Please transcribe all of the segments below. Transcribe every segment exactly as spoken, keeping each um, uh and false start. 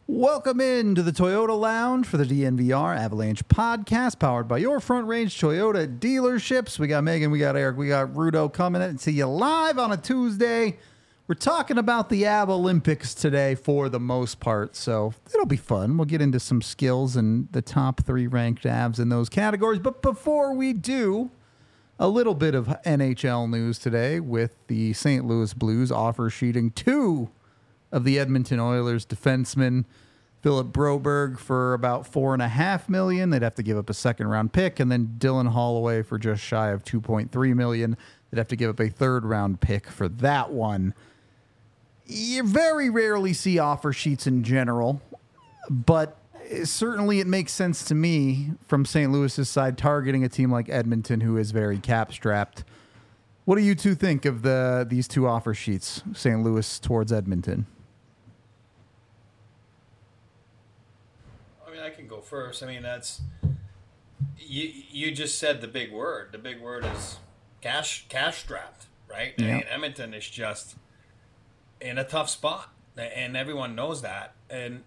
Welcome into the Toyota Lounge for the D N V R Avalanche podcast, powered by your Front Range Toyota dealerships. We got Megan, we got Eric, we got Rudo coming in to you live on a Tuesday. We're talking about the Av Olympics today for the most part, so it'll be fun. We'll get into some skills and the top three ranked Avs in those categories. But before we do, a little bit of N H L news today with the Saint Louis Blues offer sheeting two of the Edmonton Oilers defenseman Philip Broberg for about four and a half million. They'd have to give up a second round pick, and then Dylan Holloway for just shy of two point three million. They'd have to give up a third round pick for that one. You very rarely see offer sheets in general, but certainly it makes sense to me from Saint Louis's side targeting a team like Edmonton, who is very cap strapped. What do you two think of the these two offer sheets, Saint Louis towards Edmonton? I can go first. I mean, that's you. You just said the big word. The big word is cash, cash strapped, right? Yeah. I mean, Edmonton is just in a tough spot, and everyone knows that. And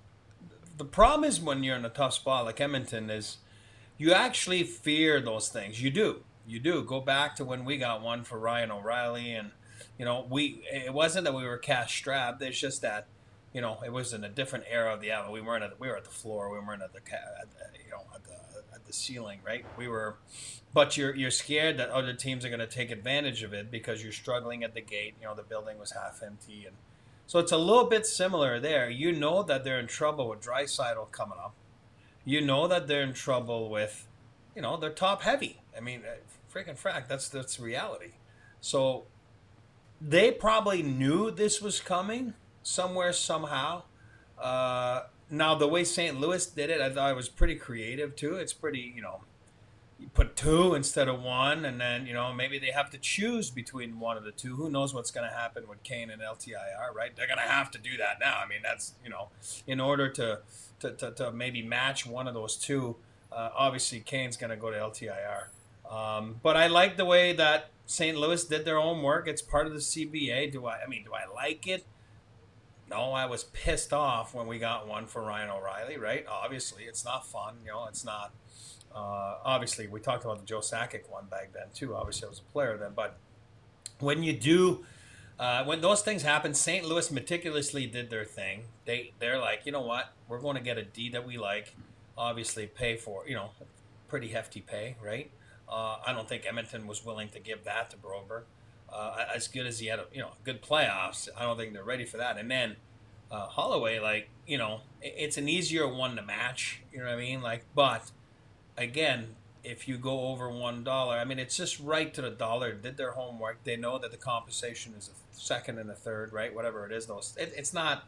the problem is when you're in a tough spot like Edmonton is, you actually fear those things. You do, you do. Go back to when we got one for Ryan O'Reilly, and you know, we. It wasn't that we were cash strapped. It's just that. You know, it was in a different era of the Avalanche. We weren't at we were at the floor. We weren't at the at the, you know at the at the ceiling, right? We were, but you're you're scared that other teams are going to take advantage of it because you're struggling at the gate. You know, the building was half empty, and so it's a little bit similar there. You know that they're in trouble with Draisaitl coming up. You know that they're in trouble with, you know, they're top heavy. I mean, freaking frack. That's that's reality. So they probably knew this was coming. Somewhere, somehow. Uh, now, the way Saint Louis did it, I thought it was pretty creative, too. It's pretty, you know, you put two instead of one, and then, you know, maybe they have to choose between one of the two. Who knows what's going to happen with Kane and L T I R, right? They're going to have to do that now. I mean, that's, you know, in order to, to, to, to maybe match one of those two, uh, obviously Kane's going to go to L T I R. Um, but I like the way that Saint Louis did their own work. It's part of the C B A. Do I, I mean, do I like it? No, I was pissed off when we got one for Ryan O'Reilly, right? Obviously, it's not fun. You know, it's not. Uh, obviously, we talked about the Joe Sakic one back then, too. Obviously, I was a player then. But when you do, uh, when those things happen, Saint Louis meticulously did their thing. They, they're like, you know what? We're going to get a D that we like. Obviously, pay for, you know, pretty hefty pay, right? Uh, I don't think Edmonton was willing to give that to Broberg. Uh, as good as he had, a, you know, good playoffs. I don't think they're ready for that. And then uh, Holloway, like, you know, it's an easier one to match. You know what I mean? Like, but again, if you go over one dollar, I mean, it's just right to the dollar. Did their homework. They know that the compensation is a second and a third, right? Whatever it is, those. It, it's not.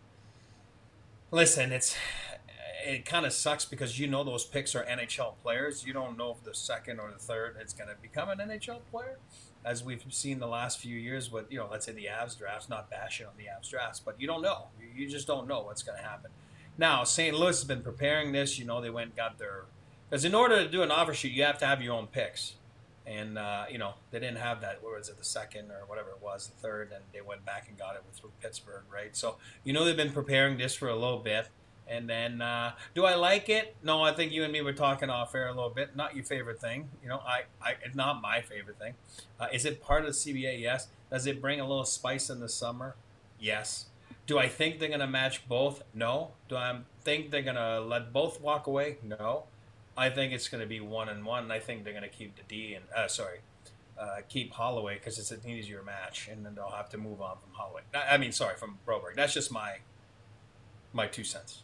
Listen, it's. It kind of sucks because you know those picks are N H L players. You don't know if the second or the third is going to become an N H L player. As we've seen the last few years with, you know, let's say the Avs drafts, not bashing on the Avs drafts, but you don't know. You just don't know what's going to happen. Now, Saint Louis has been preparing this. You know, they went and got their – because in order to do an offer sheet, you have to have your own picks. And, uh, you know, they didn't have that. What was it, the second or whatever it was, the third, and they went back and got it with Pittsburgh, right? So, you know, they've been preparing this for a little bit. And then, uh, do I like it? No, I think you and me were talking off air a little bit. Not your favorite thing. You know, I, I it's not my favorite thing. Uh, is it part of the C B A? Yes. Does it bring a little spice in the summer? Yes. Do I think they're going to match both? No. Do I think they're going to let both walk away? No. I think it's going to be one and one. And I think they're going to keep the D and, uh, sorry, uh, keep Holloway because it's an easier match. And then they'll have to move on from Holloway. I mean, sorry, from Broberg. That's just my my two cents.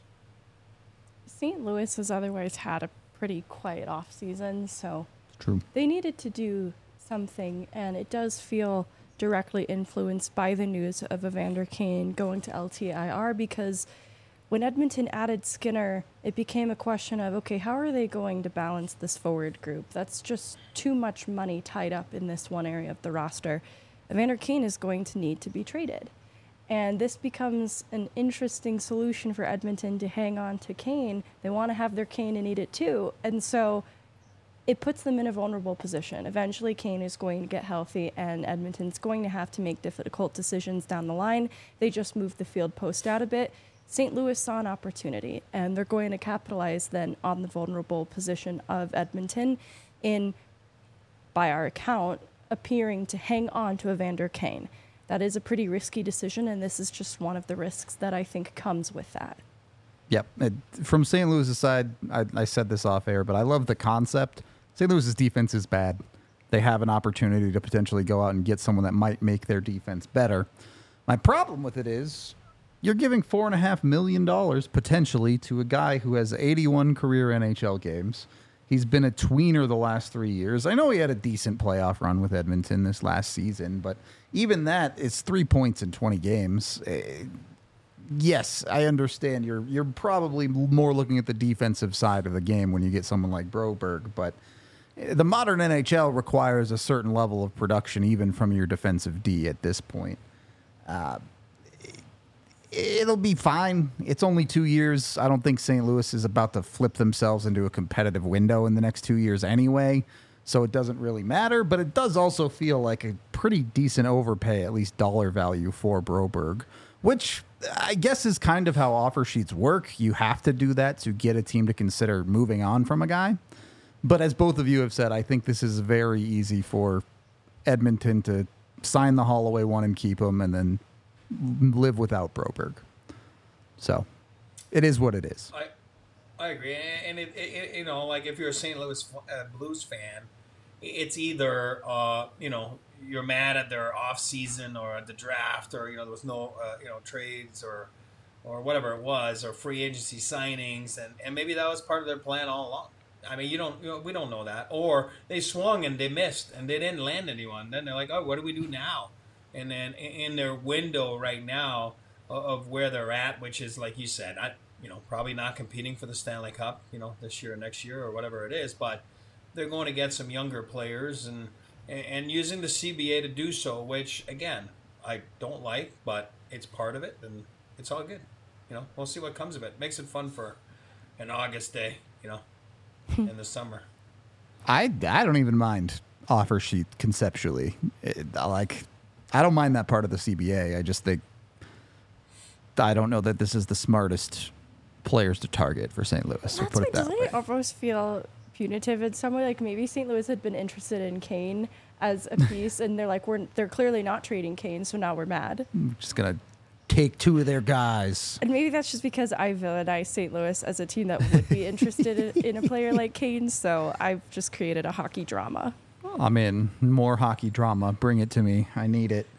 Saint Louis has otherwise had a pretty quiet off season, so True. They needed to do something, and it does feel directly influenced by the news of Evander Kane going to L T I R, because when Edmonton added Skinner, it became a question of, okay, how are they going to balance this forward group? That's just too much money tied up in this one area of the roster. Evander Kane is going to need to be traded. And this becomes an interesting solution for Edmonton to hang on to Kane. They want to have their Kane and eat it too. And so it puts them in a vulnerable position. Eventually, Kane is going to get healthy, and Edmonton's going to have to make difficult decisions down the line. They just moved the field post out a bit. Saint Louis saw an opportunity, and they're going to capitalize then on the vulnerable position of Edmonton in, by our account, appearing to hang on to Evander Kane. That is a pretty risky decision, and this is just one of the risks that I think comes with that. Yep. It, from Saint Louis' side, I, I said this off air, but I love the concept. Saint Louis' defense is bad. They have an opportunity to potentially go out and get someone that might make their defense better. My problem with it is you're giving four and a half million dollars potentially to a guy who has eighty-one career N H L games. He's been a tweener the last three years. I know he had a decent playoff run with Edmonton this last season, but even that is three points in twenty games. Uh, yes, I understand. You're you're probably more looking at the defensive side of the game when you get someone like Broberg, but the modern N H L requires a certain level of production even from your defensive D at this point. Uh, it'll be fine. It's only two years. I don't think Saint Louis is about to flip themselves into a competitive window in the next two years anyway, so it doesn't really matter, but it does also feel like a pretty decent overpay, at least dollar value, for Broberg, which I guess is kind of how offer sheets work. You have to do that to get a team to consider moving on from a guy. But as both of you have said, I think this is very easy for Edmonton to sign the Holloway one and keep him and then live without Broberg. So it is what it is. I I agree. And, it, it, you know, like if you're a Saint Louis uh, Blues fan, it's either, uh, you know, you're mad at their off season or at the draft, or, you know, there was no, uh, you know, trades or or whatever it was, or free agency signings. And, and maybe that was part of their plan all along. I mean, you don't, you know, we don't know that. Or they swung and they missed and they didn't land anyone. Then they're like, oh, what do we do now? And then in their window right now of where they're at, which is, like you said, not, you know, probably not competing for the Stanley Cup, you know, this year or next year or whatever it is, but they're going to get some younger players and and using the C B A to do so, which, again, I don't like, but it's part of it, and it's all good. You know, we'll see what comes of it. Makes it fun for an August day, you know, in the summer. I, I don't even mind offer sheet conceptually. It, like, I don't mind that part of the C B A. I just think I don't know that this is the smartest players to target for Saint Louis. That's We'll put why it that doesn't way. it almost feel punitive in some way? Like maybe Saint Louis had been interested in Kane as a piece, and they're like, we're they're clearly not trading Kane, so now we're mad. I'm just gonna take two of their guys. And maybe that's just because I villainize Saint Louis as a team that would be interested in, in a player like Kane, so I've just created a hockey drama. I'm in. More hockey drama. Bring it to me. I need it.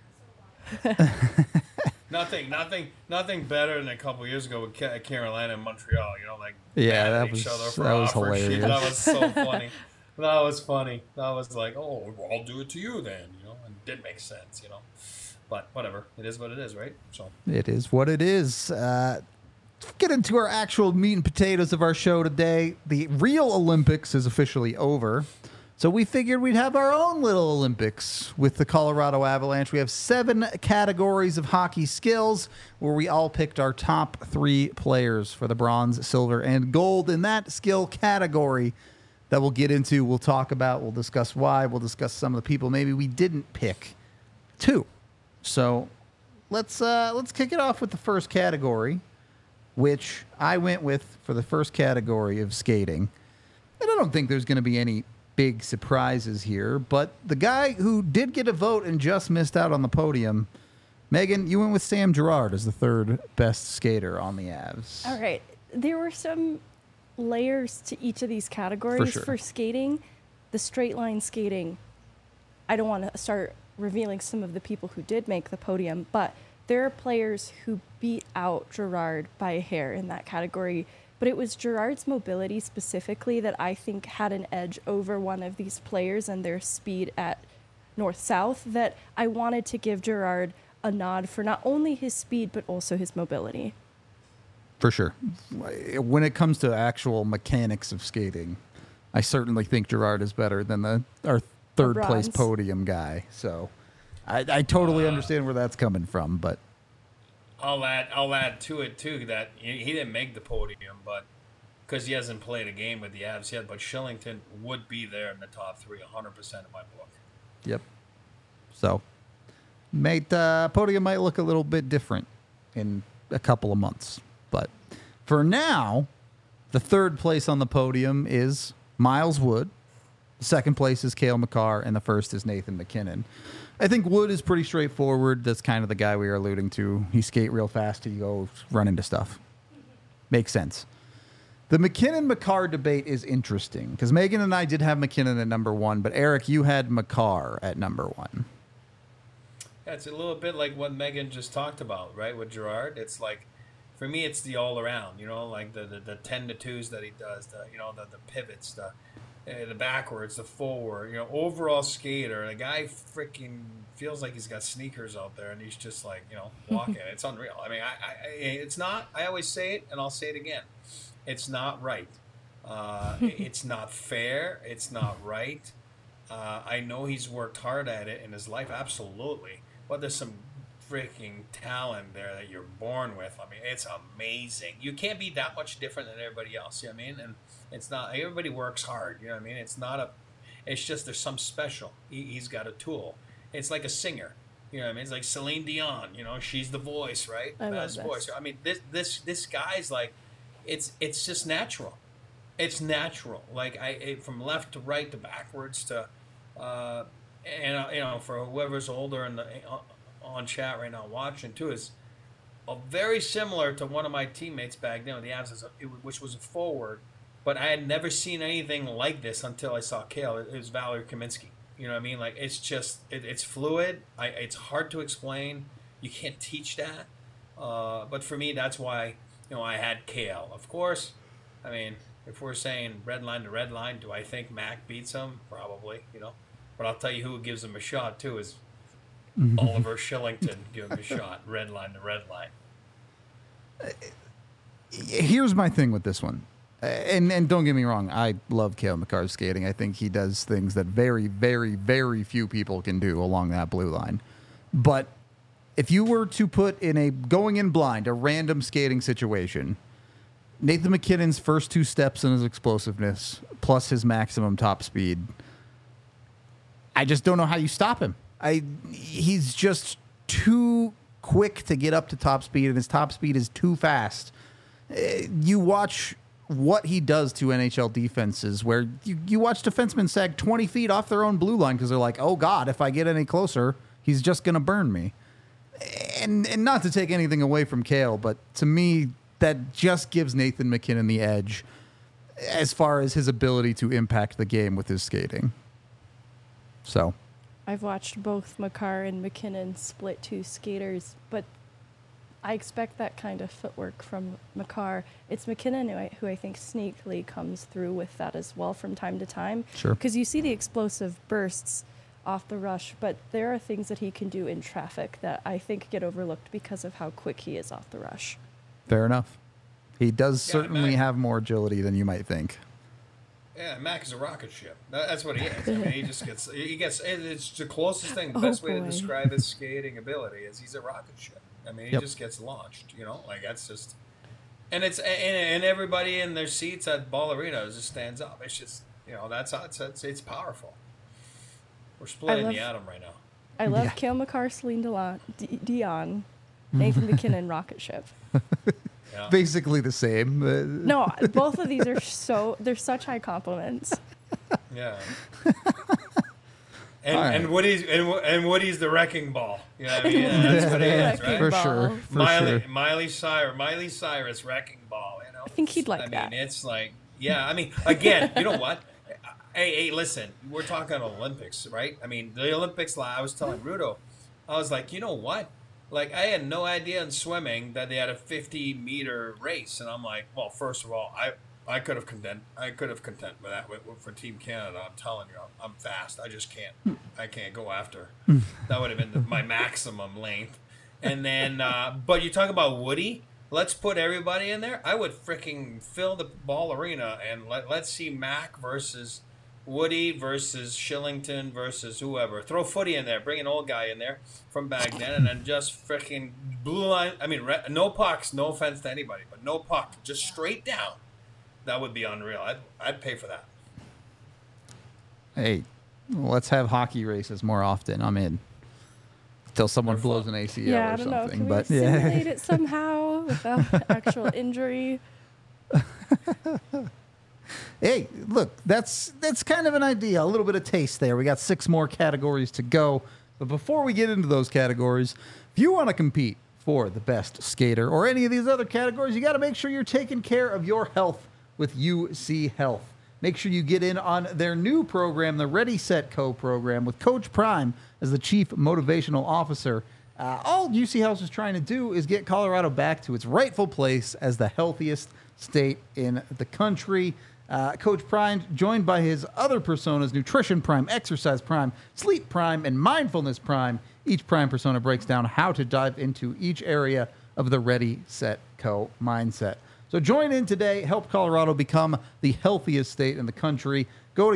Nothing, nothing, nothing better than a couple years ago with Ca- Carolina and Montreal. You know, like Yeah, mad at that each was- other for that was offer sheet. hilarious. That was so funny. That was funny. That was like, oh, well, I'll do it to you then. You know, and it did make sense. You know, but whatever. It is what it is, right? So It is what it is. Uh, let's get into our actual meat and potatoes of our show today. The real Olympics is officially over. So we figured we'd have our own little Olympics with the Colorado Avalanche. We have seven categories of hockey skills where we all picked our top three players for the bronze, silver, and gold in that skill category that we'll get into. We'll talk about, we'll discuss why, we'll discuss some of the people maybe we didn't pick too. So let's uh, let's kick it off with the first category, which I went with for the first category of skating. And I don't think there's going to be any big surprises here, but the guy who did get a vote and just missed out on the podium, Megan, you went with Sam Girard as the third best skater on the Avs. All right. There were some layers to each of these categories. sure. For skating, the straight line skating, I don't want to start revealing some of the people who did make the podium, but there are players who beat out Girard by a hair in that category. But it was Girard's mobility specifically that I think had an edge over one of these players and their speed at north-south, that I wanted to give Girard a nod for not only his speed, but also his mobility. For sure. When it comes to actual mechanics of skating, I certainly think Girard is better than the our third place bronze. podium guy. So I, I totally understand where that's coming from, but I'll add, I'll add to it too that he, he didn't make the podium, but because he hasn't played a game with the Avs yet. But Shillington would be there in the top three, one hundred percent in my book. yep. So, mate, uh, podium might look a little bit different in a couple of months. But for now, the third place on the podium is Miles Wood. The second place is Cale Makar, and the first is Nathan MacKinnon. I think Wood is pretty straightforward. That's kind of the guy we were alluding to. He skate real fast. He goes run into stuff. Makes sense. The MacKinnon-Makar debate is interesting because Megan and I did have MacKinnon at number one, but Eric, you had Makar at number one. Yeah, it's a little bit like what Megan just talked about, right, with Gerard. It's like, for me, it's the all-around, you know, like the, the, the ten to twos that he does, the you know, the, the pivots, the uh, the backwards, the forward, you know, overall skater. The guy freaking feels like he's got sneakers out there, and he's just like, you know, walking. It's unreal. I mean, I, I, it's not, I always say it, and I'll say it again. It's not right. Uh, it's not fair. It's not right. Uh, I know he's worked hard at it in his life, absolutely. But there's some freaking talent there that you're born with. I mean, it's amazing. You can't be that much different than everybody else. You know what I mean? And it's not, everybody works hard. You know what I mean? It's not a, it's just there's some special. He, he's got a tool. It's like a singer. You know what I mean? It's like Celine Dion. You know, she's the voice, right? I love Best this. voice. I mean, this this this guy's like, it's it's just natural. It's natural. Like I it, from left to right to backwards to, uh, and uh, you know, for whoever's older and uh, on chat right now watching too, is uh, very similar to one of my teammates back then with the Avs, which was a forward, but I had never seen anything like this until I saw Cale. It was Valery Kaminsky. You know what I mean? Like it's just it, it's fluid. I it's hard to explain. You can't teach that. Uh, but for me, that's why you know I had Cale. Of course, I mean if we're saying red line to red line, do I think Mac beats him? Probably. You know, but I'll tell you who gives him a shot too is Oliver Shillington. Give him a shot. Red line to red line. Here's my thing with this one. And and don't get me wrong, I love Cale Makar's skating. I think he does things that very, very, very few people can do along that blue line. But if you were to put in a going in blind, a random skating situation, Nathan MacKinnon's first two steps in his explosiveness plus his maximum top speed, I just don't know how you stop him. I he's just too quick to get up to top speed, and his top speed is too fast. You watch what he does to N H L defenses where you, you watch defensemen sag twenty feet off their own blue line because they're like, oh, God, if I get any closer, he's just going to burn me. And, and not to take anything away from Cale, but to me, that just gives Nathan MacKinnon the edge as far as his ability to impact the game with his skating. So I've watched both Makar and MacKinnon split two skaters, but I expect that kind of footwork from Makar. It's MacKinnon who I, who I think sneakily comes through with that as well from time to time. Sure. Because you see the explosive bursts off the rush, but there are things that he can do in traffic that I think get overlooked because of how quick he is off the rush. Fair enough. He does Yeah, certainly Mac- have more agility than you might think. Yeah, Mac is a rocket ship. That, that's what he is. I mean, he just gets, he gets, it's the closest thing, the Oh, best way to boy. describe his skating ability is he's a rocket ship. I mean, he Yep. just gets launched, you know, like that's just, and it's, and, and everybody in their seats at Ball Arena just stands up. It's just, you know, that's how it's, it's, it's powerful. We're splitting love- the atom right now. I love Yeah. Cale Makar, Celine Dion, D- Dion, Nathan MacKinnon, rocket ship. Yeah. Basically the same. Uh, No, both of these are so, they're such high compliments. Yeah. And, All right. and Woody's and, Wo- and Woody's the wrecking ball. You know what I mean? Yeah, that's what he is, Wrecking right? For ball. sure. For Miley, sure. Miley Cyrus, Miley Cyrus wrecking ball. You know, I think he'd like I mean, that. it's like, yeah. I mean, again, you know what? Hey, hey, listen. We're talking Olympics, right? I mean, the Olympics. like, I was telling Rudo, I was like, you know what? Like, I had no idea in swimming that they had a fifty meter race, and I'm like, well, first of all, I. I could have content. I could have content with that with, with- for Team Canada. I'm telling you, I'm, I'm fast. I just can't. I can't go after. That would have been the, my maximum length. And then, uh, but you talk about Woody. Let's put everybody in there. I would freaking fill the Ball Arena and let let's see Mac versus Woody versus Shillington versus whoever. Throw Footy in there. Bring an old guy in there from back then, and then just freaking blue line. I mean, re- no pucks. No offense to anybody, but no puck. Just straight down. That would be unreal. I'd, I'd pay for that. Hey, let's have hockey races more often. I'm in. Till someone They're blows fun. an A C L Yeah, or I don't know. something. Can but we yeah. simulate it somehow without actual injury? Hey, look, that's that's kind of an idea. A little bit of taste there. We got six more categories to go. But before we get into those categories, if you want to compete for the best skater or any of these other categories, you got to make sure you're taking care of your health with U C Health. Make sure you get in on their new program, the Ready, Set, Co program, with Coach Prime as the Chief Motivational Officer. Uh, all U C Health is trying to do is get Colorado back to its rightful place as the healthiest state in the country. Uh, Coach Prime, joined by his other personas, Nutrition Prime, Exercise Prime, Sleep Prime, and Mindfulness Prime. Each Prime persona breaks down how to dive into each area of the Ready, Set, Co mindset. So join in today. Help Colorado become the healthiest state in the country. Go to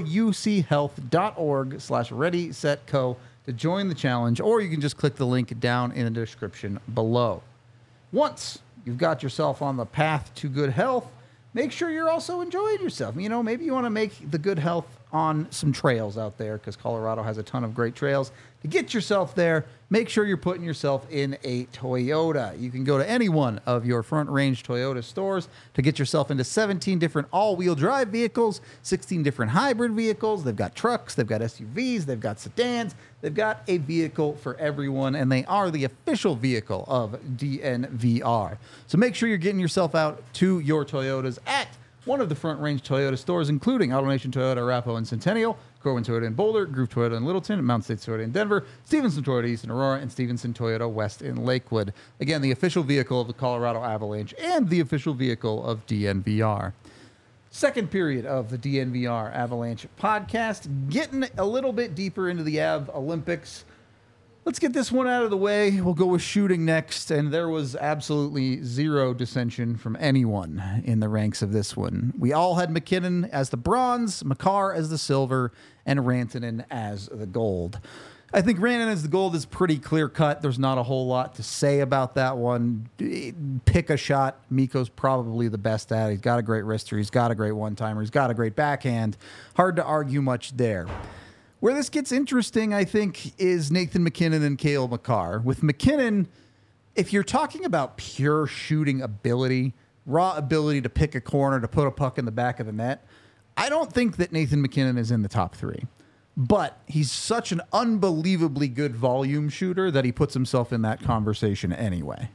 uchealth.org slash ready, set, co to join the challenge, or you can just click the link down in the description below. Once you've got yourself on the path to good health, make sure you're also enjoying yourself. You know, maybe you want to make the good health on some trails out there, because Colorado has a ton of great trails. To get yourself there, make sure you're putting yourself in a Toyota. You can go to any one of your Front Range Toyota stores to get yourself into seventeen different all-wheel drive vehicles, sixteen different hybrid vehicles. They've got trucks, they've got S U Vs, they've got sedans. They've got a vehicle for everyone, and they are the official vehicle of D N V R. So make sure you're getting yourself out to your Toyotas at one of the Front Range Toyota stores, including AutoNation Toyota, Arapahoe and Centennial, Corwin Toyota in Boulder, Groove Toyota in Littleton, Mountain States Toyota in Denver, Stevenson Toyota East in Aurora, and Stevenson Toyota West in Lakewood. Again, the official vehicle of the Colorado Avalanche and the official vehicle of D N V R. Second period of the D N V R Avalanche podcast, getting a little bit deeper into the Av Olympics. Let's get this one out of the way. We'll go with shooting next, and there was absolutely zero dissension from anyone in the ranks of this one. We all had MacKinnon as the bronze, Makar as the silver, and Rantanen as the gold. I think Rantanen as the gold is pretty clear-cut. There's not a whole lot to say about that one. Pick a shot. Mikko's probably the best at it. He's got a great wrister. He's got a great one-timer. He's got a great backhand. Hard to argue much there. Where this gets interesting, I think, is Nathan MacKinnon and Cale Makar. With MacKinnon, if you're talking about pure shooting ability, raw ability to pick a corner, to put a puck in the back of the net, I don't think that Nathan MacKinnon is in the top three. But he's such an unbelievably good volume shooter that he puts himself in that conversation anyway.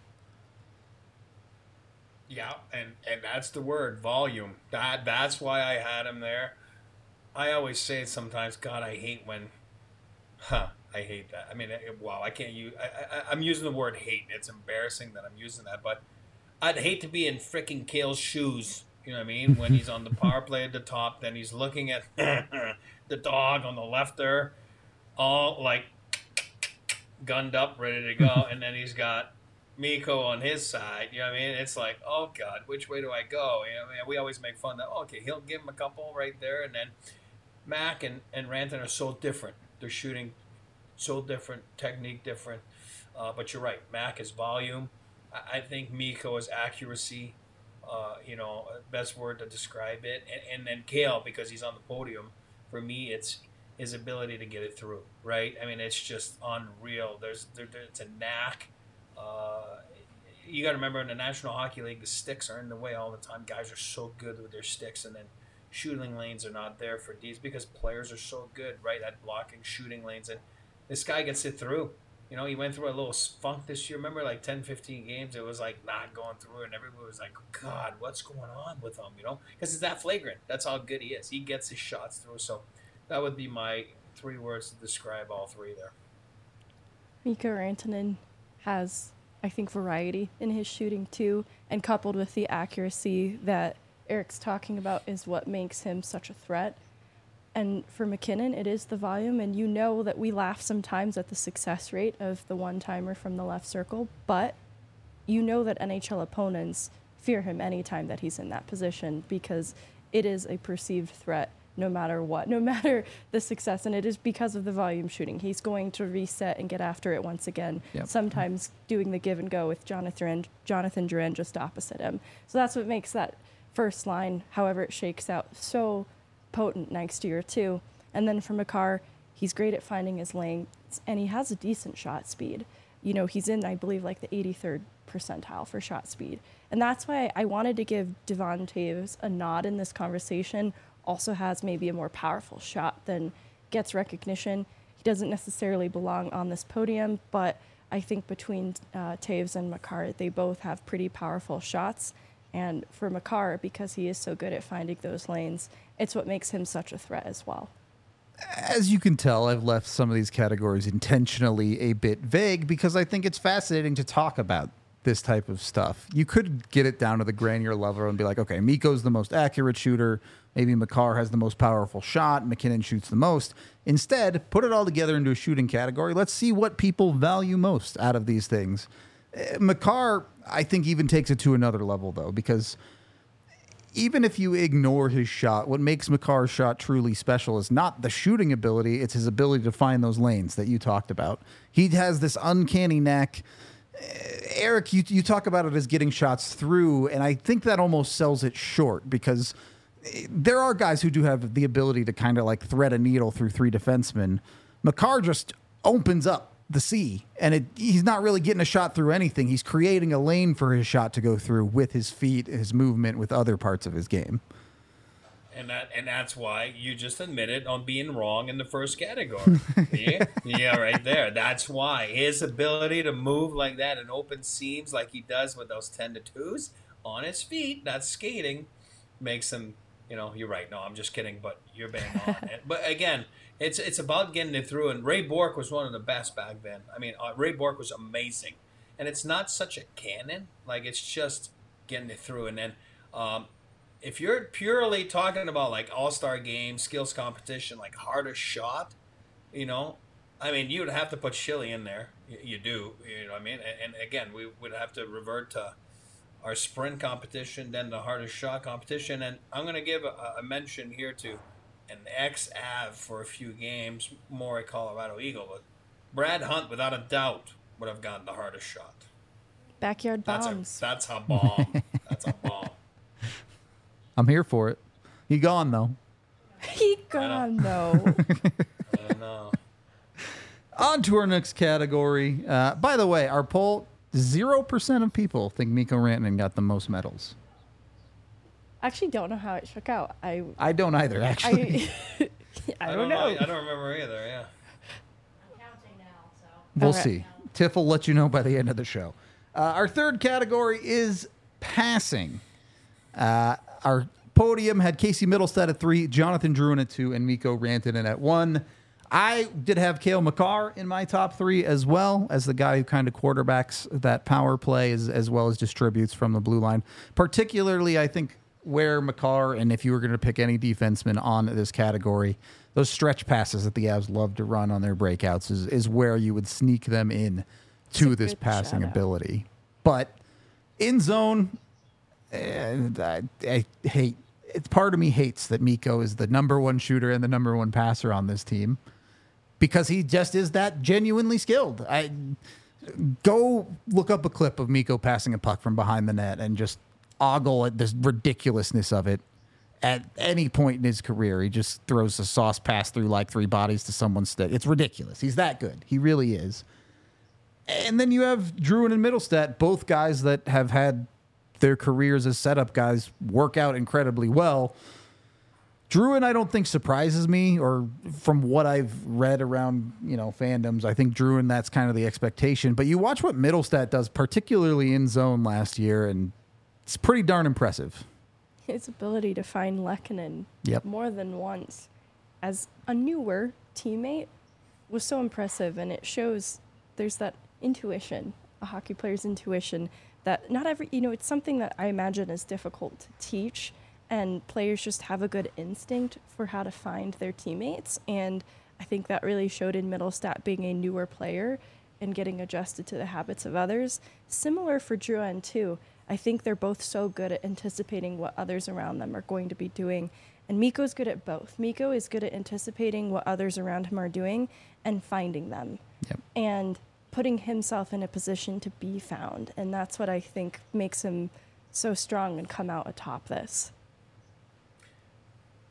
Yeah, and, and that's the word, volume. That That's why I had him there. I always say it sometimes, God, I hate when, huh, I hate that. I mean, it, wow, I can't use, I, I, I'm using the word hate. It's embarrassing that I'm using that, but I'd hate to be in freaking Cale's shoes, you know what I mean? When he's on the power play at the top, then he's looking at the dog on the left there, all like gunned up, ready to go, and then he's got Mikko on his side, you know what I mean? It's like, oh, God, which way do I go? You know, I mean, we always make fun that, oh, okay, he'll give him a couple right there, and then Mac and, and Rantanen are so different. They're shooting so different, technique different. Uh, but you're right. Mac is volume. I, I think Mikko is accuracy. Uh, you know, best word to describe it. And, and then Cale, because he's on the podium, for me, it's his ability to get it through, right? I mean, it's just unreal. There's there, there, It's a knack. Uh, you got to remember, in the National Hockey League, the sticks are in the way all the time. Guys are so good with their sticks, and then shooting lanes are not there for D's because players are so good, right, at blocking shooting lanes. And this guy gets it through. You know, he went through a little funk this year. Remember, like ten, fifteen games, it was like not going through, and everybody was like, God, what's going on with him, you know? Because it's that flagrant. That's how good he is. He gets his shots through. So that would be my three words to describe all three there. Mikko Rantanen has, I think, variety in his shooting too, and coupled with the accuracy that Eric's talking about is what makes him such a threat. And for MacKinnon, it is the volume, and you know that we laugh sometimes at the success rate of the one-timer from the left circle, but you know that N H L opponents fear him anytime that he's in that position because it is a perceived threat no matter what, no matter the success, and it is because of the volume shooting. He's going to reset and get after it once again, Yep. sometimes doing the give and go with Jonathan, Jonathan Drouin just opposite him. So that's what makes that first line, however it shakes out, so potent next year too. And then for Makar, he's great at finding his lanes, and he has a decent shot speed. you know, he's in, I believe, like the eighty-third percentile for shot speed. And that's why I wanted to give Devon Toews a nod in this conversation. Also has maybe a more powerful shot than gets recognition. He doesn't necessarily belong on this podium, but I think between uh, Toews and Makar, they both have pretty powerful shots. And for Makar, because he is so good at finding those lanes, it's what makes him such a threat as well. As you can tell, I've left some of these categories intentionally a bit vague because I think it's fascinating to talk about this type of stuff. You could get it down to the granular level and be like, okay, Mikko's the most accurate shooter. Maybe Makar has the most powerful shot. McKinnon shoots the most. Instead, put it all together into a shooting category. Let's see what people value most out of these things. Uh, Makar, I think, even takes it to another level, though, because even if you ignore his shot, what makes Makar's shot truly special is not the shooting ability, it's his ability to find those lanes that you talked about. He has this uncanny knack. Eric, you, you talk about it as getting shots through, and I think that almost sells it short because there are guys who do have the ability to kind of like thread a needle through three defensemen. Makar just opens up the sea, and it, he's not really getting a shot through anything. He's creating a lane for his shot to go through with his feet, his movement, with other parts of his game. And that and that's why you just admitted on being wrong in the first category. yeah, yeah, right there. That's why his ability to move like that and open seams like he does with those ten to twos on his feet, that's skating, makes him. You know, you're right. No, I'm just kidding. But you're bang on. and, but again, it's it's about getting it through. And Ray Bourque was one of the best back then. I mean, uh, Ray Bourque was amazing. And it's not such a cannon. Like it's just getting it through. And then. Um, If you're purely talking about like all-star game, skills competition, like hardest shot, you know, I mean, you would have to put Schilly in there. You, you do, you know what I mean? And, and again, we would have to revert to our sprint competition, then the hardest shot competition. And I'm going to give a, a mention here to an ex-Av for a few games, more a Colorado Eagle. But Brad Hunt, without a doubt, would have gotten the hardest shot. Backyard That's bombs. a, that's a bomb. That's a bomb. I'm here for it. He gone, though. He gone, though. I know. On to our next category. Uh, by the way, our poll, zero percent of people think Mikko Rantanen got the most medals. Actually, don't know how it shook out. I I don't either, actually. I, I, I don't know. I don't remember either, yeah. I'm counting now, so. We'll Okay. see. Tiff will let you know by the end of the show. Uh, our third category is passing. Uh, our podium had Casey Middlestat at three, Jonathan Drouin at two, and Mikko Rantanen at one. I did have Cale Makar in my top three as well as the guy who kind of quarterbacks that power play as, as well as distributes from the blue line. Particularly, I think, where Makar, and if you were going to pick any defenseman on this category, those stretch passes that the Avs love to run on their breakouts is, is where you would sneak them in to a this good passing shout-out. ability. But in zone, and I, I hate it's part of me hates that Mikko is the number one shooter and the number one passer on this team because he just is that genuinely skilled. I go look up a clip of Mikko passing a puck from behind the net and just ogle at this ridiculousness of it. At any point in his career, he just throws a sauce pass through like three bodies to someone's stick. It's ridiculous. He's that good. He really is. And then you have Drouin and Middlestat, both guys that have had their careers as setup guys work out incredibly well. Drouin, I don't think surprises me, or from what I've read around, you know, fandoms, I think Drouin, that's kind of the expectation. But you watch what Middlestat does, particularly in zone last year, and it's pretty darn impressive. His ability to find Lehkonen Yep. more than once as a newer teammate was so impressive, and it shows there's that intuition, a hockey player's intuition, that not every, you know, it's something that I imagine is difficult to teach, and players just have a good instinct for how to find their teammates. And I think that really showed in Middlestat being a newer player and getting adjusted to the habits of others. Similar for Drouin too. I think they're both so good at anticipating what others around them are going to be doing. And Mikko's good at both. Mikko is good at anticipating what others around him are doing and finding them. Yep. And putting himself in a position to be found. And that's what I think makes him so strong and come out atop this.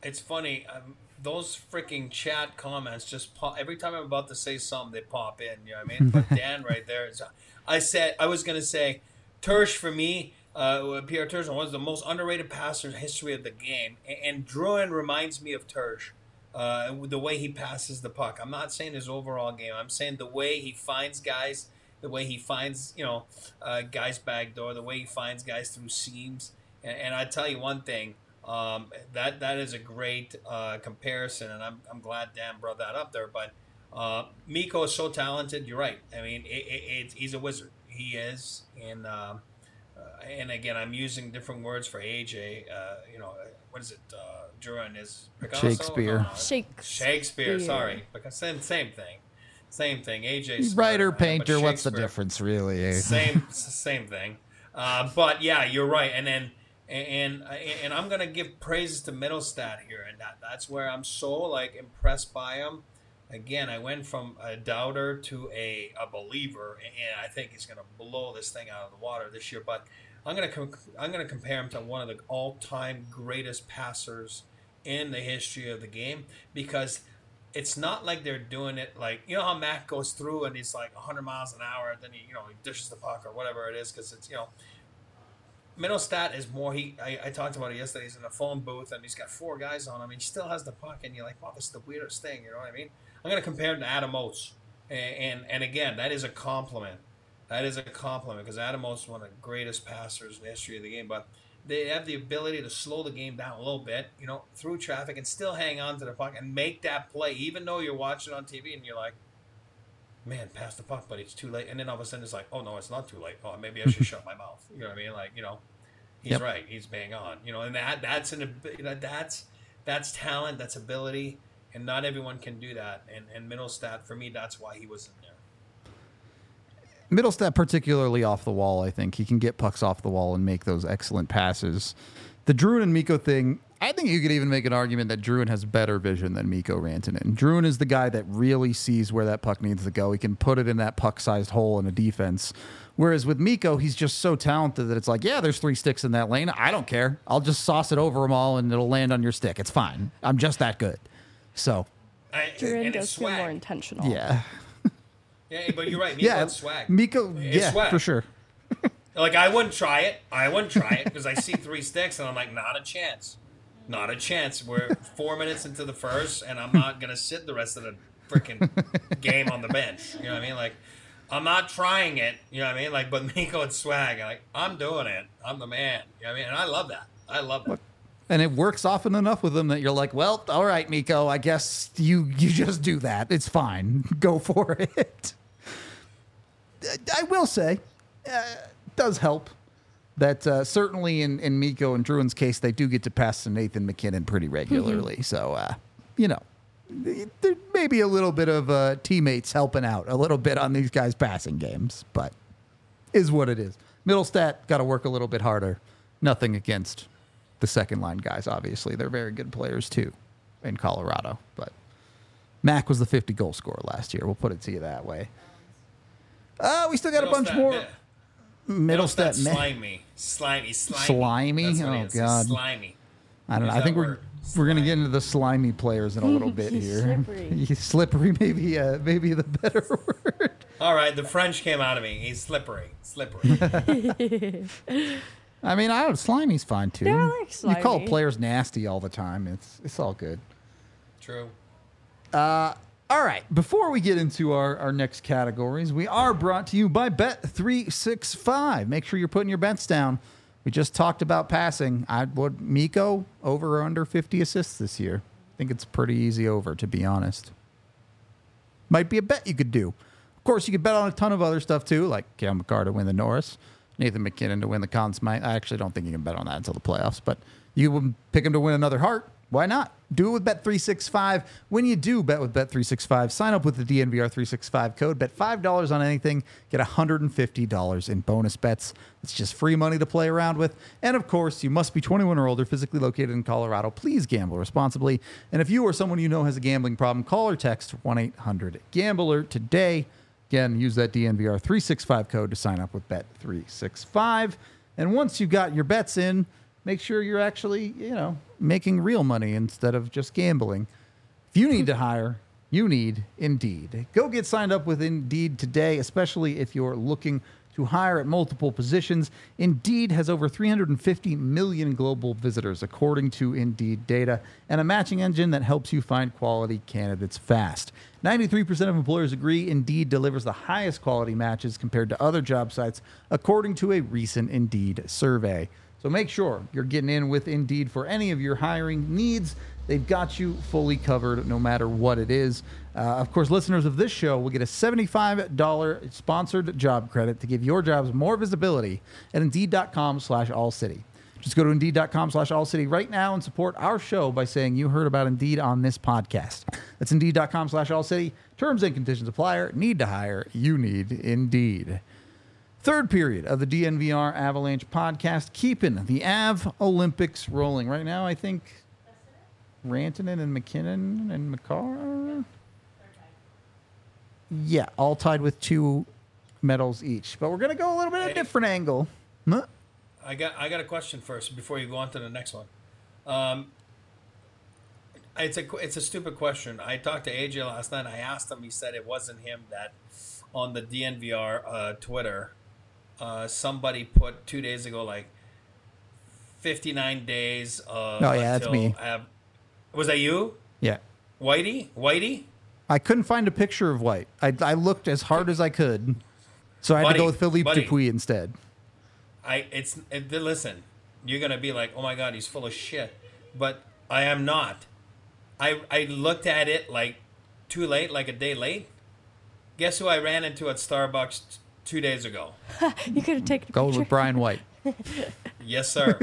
it's funny. Um, those freaking chat comments just pop every time I'm about to say something. They pop in. You know what I mean? But Dan right there. Is, I said I was gonna say, Tersh for me. Uh, Pierre Turgeon was the most underrated passer in the history of the game, and, and Drouin reminds me of Tersh. Uh, the way he passes the puck. I'm not saying his overall game. I'm saying the way he finds guys, the way he finds, you know, uh, guys back door, the way he finds guys through seams. And, and I tell you one thing, um, that that is a great uh, comparison, and I'm I'm glad Dan brought that up there. But uh, Mikko is so talented. You're right. I mean, it, it, it, he's a wizard. He is. And uh, uh, and again, I'm using different words for A J. Uh, you know, what is it? Uh, Drouin is Picasso? Shakespeare. No, no. Shakespeare. Shakespeare, sorry. Because same, same thing. Same thing. A J. Writer, Smart, uh, painter, but what's the Shakespeare, difference, really? eh? Same, same thing. Uh, but yeah, you're right. And then, and and I'm gonna give praises to Middlestat here, and that that's where I'm so like impressed by him. Again, I went from a doubter to a, a believer, and I think he's gonna blow this thing out of the water this year. But I'm gonna com- I'm gonna compare him to one of the all-time greatest passers in the history of the game, because it's not like they're doing it like, you know how Mac goes through and he's like one hundred miles an hour, and then he, you know, he dishes the puck or whatever it is, because it's, you know, Middlestat is more, he I, I talked about it yesterday, he's in a phone booth and he's got four guys on him, and he still has the puck, and you're like, wow, this is the weirdest thing, you know what I mean? I'm going to compare him to Adam Oates, and, and and again, that is a compliment. That is a compliment, because Adam Oates is one of the greatest passers in the history of the game, but they have the ability to slow the game down a little bit, you know, through traffic, and still hang on to the puck and make that play, even though you're watching on T V and you're like, man, pass the puck, but it's too late. And then all of a sudden it's like, oh, no, it's not too late. Oh, maybe I should shut my mouth. You know what I mean? Like, you know, he's Yep. right. He's bang on. You know, and that that's an you know, that's that's talent, that's ability, and not everyone can do that. And and Middlestat, for me, that's why he was in there. Middlestat, particularly off the wall, I think. He can get pucks off the wall and make those excellent passes. The Drouin and Mikko thing, I think you could even make an argument that Drouin has better vision than Mikko Rantanen. Drouin is the guy that really sees where that puck needs to go. He can put it in that puck-sized hole in a defense. Whereas with Mikko, he's just so talented that it's like, yeah, there's three sticks in that lane. I don't care. I'll just sauce it over them all, and it'll land on your stick. It's fine. I'm just that good. So, I, Durin and it's does feel more swag. intentional. yeah. Yeah, but you're right. Mikko Yeah, it's swag. Mikko, It's yeah, swag. for sure. Like, I wouldn't try it. I wouldn't try it because I see three sticks and I'm like, not a chance. Not a chance. We're four minutes into the first, and I'm not going to sit the rest of the freaking game on the bench. You know what I mean? Like, I'm not trying it. You know what I mean? Like, but Mikko and swag, like, I'm doing it. I'm the man. You know what I mean? And I love that. I love that. And it works often enough with him that you're like, well, all right, Mikko, I guess you, you just do that. It's fine. Go for it. I will say, uh, it does help that uh, certainly in, in Mikko and Drouin's case, they do get to pass to Nathan McKinnon pretty regularly. Mm-hmm. So, uh, you know, there may be a little bit of uh, teammates helping out a little bit on these guys' passing games, but is what it is. Middlestat got to work a little bit harder. Nothing against the second line guys, obviously. They're very good players, too, in Colorado. But Mac was the fifty goal scorer last year. We'll put it to you that way. Uh, we still got a bunch more. Middlestat, Middlestat, slimy, slimy, slimy. Slimy? That's what Oh, it is. God. It's slimy. I don't know. Use I that think we're word. we're gonna get Slimy. into the slimy players in a little bit here. Slippery. He's slippery, maybe uh, maybe the better word. All right, the French came out of me. He's slippery, slippery. I mean, I don't. Slimy's fine too. Yeah, I like You call slimy. players nasty all the time. It's it's all good. True. All right, before we get into our, our next categories, we are brought to you by Bet three sixty-five. Make sure you're putting your bets down. We just talked about passing. I would Mikko over or under fifty assists this year. I think it's pretty easy over, to be honest. Might be a bet you could do. Of course, you could bet on a ton of other stuff too, like Cale Makar to win the Norris, Nathan McKinnon to win the Conn Smythe. I actually don't think you can bet on that until the playoffs, but you would pick him to win another Hart. Why not? Do it with Bet three sixty-five. When you do bet with Bet three sixty-five, sign up with the D N V R three sixty-five code. Bet five dollars on anything. Get one hundred fifty dollars in bonus bets. It's just free money to play around with. And, of course, you must be twenty-one or older, physically located in Colorado. Please gamble responsibly. And if you or someone you know has a gambling problem, call or text one eight hundred gambler today. Again, use that D N V R three sixty-five code to sign up with Bet three sixty-five. And once you've got your bets in, make sure you're actually, you know, making real money instead of just gambling. If you need to hire, you need Indeed. Go get signed up with Indeed today, especially if you're looking to hire at multiple positions. Indeed has over three hundred fifty million global visitors, according to Indeed data, and a matching engine that helps you find quality candidates fast. ninety-three percent of employers agree Indeed delivers the highest quality matches compared to other job sites, according to a recent Indeed survey. So make sure you're getting in with Indeed for any of your hiring needs. They've got you fully covered no matter what it is. Uh, of course, listeners of this show will get a seventy-five dollars sponsored job credit to give your jobs more visibility at Indeed.com slash AllCity. Just go to Indeed.com slash AllCity right now and support our show by saying you heard about Indeed on this podcast. That's Indeed.com slash AllCity. Terms and conditions apply. Need to hire. You need Indeed. Third period of the D N V R Avalanche podcast, keeping the Av Olympics rolling. Right now, I think Rantanen and McKinnon and McCarr. Yeah, all tied with two medals each. But we're going to go a little bit of a different angle. Huh? I got I got a question first before you go on to the next one. Um, it's a it's a stupid question. I talked to A J last night. I asked him. He said it wasn't him. That on the D N V R uh, Twitter, uh, somebody put two days ago like fifty-nine days. Of Oh yeah, that's me. Av- was that you? Yeah. Whitey? Whitey? I couldn't find a picture of White. I, I looked as hard as I could, so I had Buddy, to go with Philippe buddy. Dupuis instead. I it's it, listen. You're gonna be like, oh my god, he's full of shit, but I am not. I I looked at it like too late, like a day late. Guess who I ran into at Starbucks t- two days ago? You could have taken a Go picture. with Brian White. Yes, sir.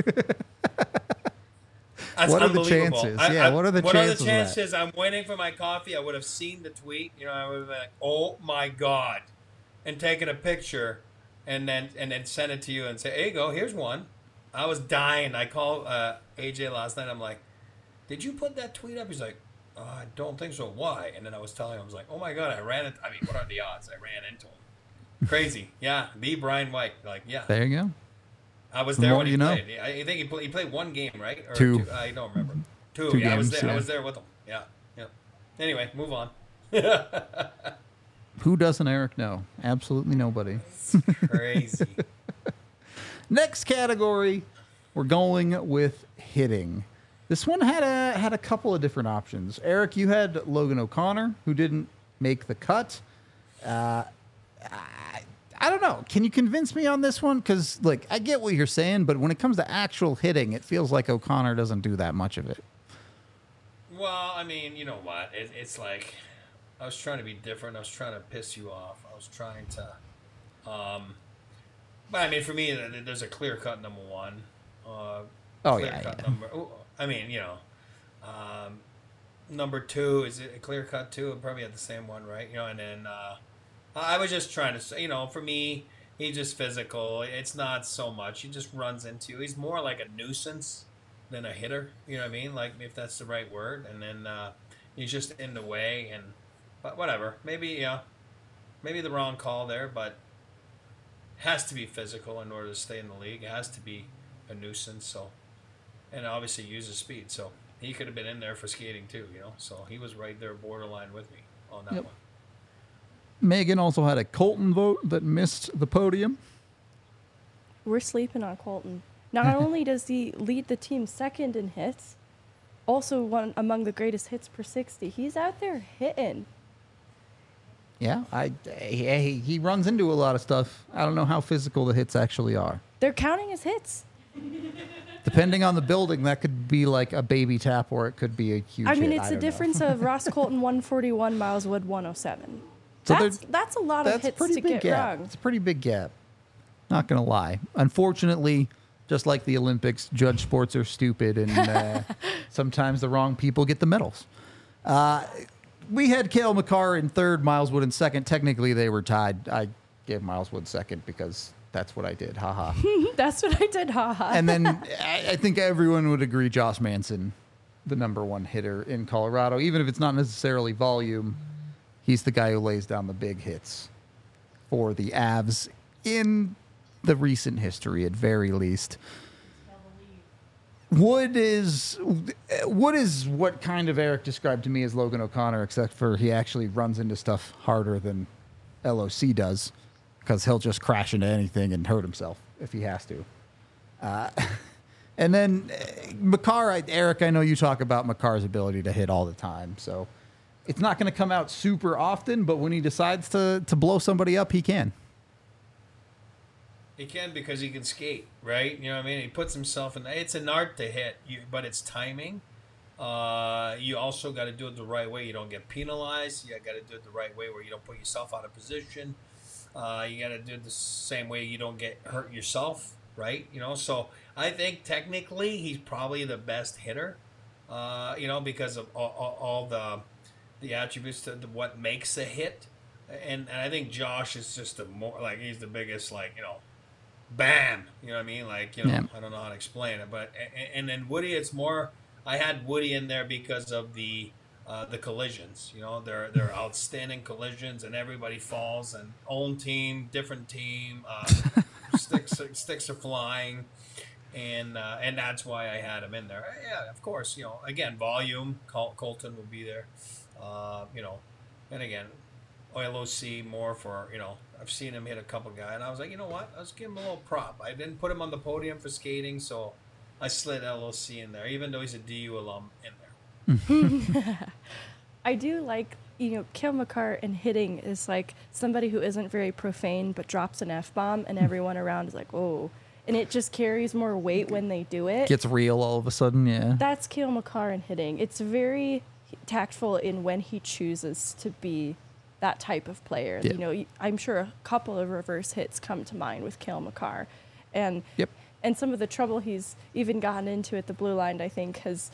That's What are the unbelievable. chances? I- Yeah, I- what are the what chances of are the that? chances? I'm waiting for my coffee. I would have seen the tweet. You know, I would have been like, "Oh my god," and taken a picture, and then and then send it to you and say, "Here you go. Here's one." I was dying. I called uh, A J last night. I'm like, "Did you put that tweet up?" He's like, oh, "I don't think so. Why?" And then I was telling him, I was like, "Oh my god, I ran it. I mean, what are the odds? I ran into him. Crazy. Yeah, the Brian White. Like, yeah." There you go. I was The there more when he you know. played. I I think he played, he played one game, right? Or Two. I don't remember. Two. Two yeah, I was games, there. I yeah. was there with him. Yeah, yeah. Anyway, move on. Who doesn't Eric know? Absolutely nobody. Crazy. Next category, we're going with hitting. This one had a had a couple of different options. Eric, you had Logan O'Connor, who didn't make the cut. Uh, I, I don't know. Can you convince me on this one? Because, like, I get what you're saying, but when it comes to actual hitting, it feels like O'Connor doesn't do that much of it. Well, I mean, you know what? It, it's like I was trying to be different. I was trying to piss you off. I was trying to. Um, but I mean, for me, th- there's a clear cut number one. Uh, Oh, clear yeah, cut yeah. Number. oh, I mean, you know, um, number two is it a clear cut too? Probably at the same one, right? You know, and then uh, I was just trying to say, you know, for me, he's just physical. It's not so much. He just runs into. He's more like a nuisance than a hitter. You know what I mean? Like, if that's the right word. And then uh, he's just in the way. And but whatever. Maybe yeah, maybe the wrong call there, but has to be physical in order to stay in the league. It has to be a nuisance. So, and obviously uses speed. So he could have been in there for skating too. You know. So he was right there, borderline with me on that Yep. one. Megan also had a Colton vote that missed the podium. We're sleeping on Colton. Not only does he lead the team second in hits, also one among the greatest hits per sixty. He's out there hitting. Yeah, I he, he runs into a lot of stuff. I don't know how physical the hits actually are. They're counting his hits. Depending on the building, that could be like a baby tap or it could be a huge I mean, hit. it's I the don't know. difference of Ross Colton one forty-one, Miles Wood one oh seven. So That's they're- that's a lot of That's a hits pretty to big get gap. wrong. It's a pretty big gap. Not going to lie. Unfortunately, just like the Olympics, judge sports are stupid and uh, sometimes the wrong people get the medals. Uh, we had Cale Makar in third, Miles Wood in second. Technically, they were tied. I gave Miles Wood second because that's what I did. Haha. That's what I did, haha. And then I, I think everyone would agree Josh Manson, the number one hitter in Colorado, even if it's not necessarily volume, he's the guy who lays down the big hits for the Avs in the recent history, at very least. Wood is Wood is what kind of Eric described to me as Logan O'Connor, except for he actually runs into stuff harder than L O C does, because he'll just crash into anything and hurt himself if he has to. Uh, and then uh, Makar, I, Eric, I know you talk about Makar's ability to hit all the time, so it's not going to come out super often, but when he decides to to blow somebody up, he can. He can because he can skate, right? You know what I mean? He puts himself in. It's an art to hit, you, but it's timing. Uh, you also got to do it the right way. You don't get penalized. You got to do it the right way where you don't put yourself out of position. Uh, you got to do it the same way you don't get hurt yourself, right? You know, so I think technically he's probably the best hitter, uh, you know, because of all, all, all the the attributes to the, what makes a hit. And, and I think Josh is just the more, like, he's the biggest, like, you know, bam, you know what I mean? Like, you know, Yeah. I don't know how to explain it, but and, and then Woody, it's more. I had Woody in there because of the uh, the collisions. You know, they're they're outstanding collisions, and everybody falls. And own team, different team, uh, sticks sticks are flying, and uh, and that's why I had him in there. Yeah, of course. You know, again, volume. Col- Colton will be there. Uh, you know, and again, L O C more for, you know, I've seen him hit a couple guys, and I was like, you know what? Let's give him a little prop. I didn't put him on the podium for skating, so I slid L O C in there, even though he's a D U alum in there. I do like, you know, Cale Makar in hitting is like somebody who isn't very profane but drops an F-bomb, and everyone around is like, oh. And it just carries more weight when they do it. Gets real all of a sudden, yeah. That's Cale Makar in hitting. It's very tactful in when he chooses to be that type of player. Yeah. You know, I'm sure a couple of reverse hits come to mind with Cale Makar. And Yep. and some of the trouble he's even gotten into at the blue line, I think, has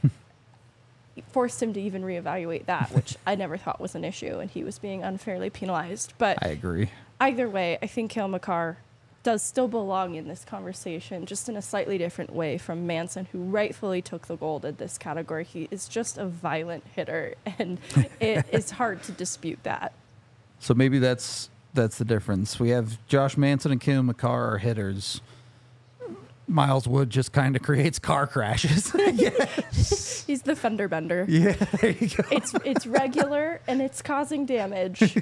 forced him to even reevaluate that, which I never thought was an issue, and he was being unfairly penalized. But I agree. either way, I think Cale Makar does still belong in this conversation, just in a slightly different way from Manson, who rightfully took the gold in this category. He is just a violent hitter, and it is hard to dispute that. So maybe that's that's the difference. We have Josh Manson and Cale Makar are hitters. Miles Wood just kind of creates car crashes. Yes. He's the fender bender. Yeah, there you go. It's it's regular and it's causing damage.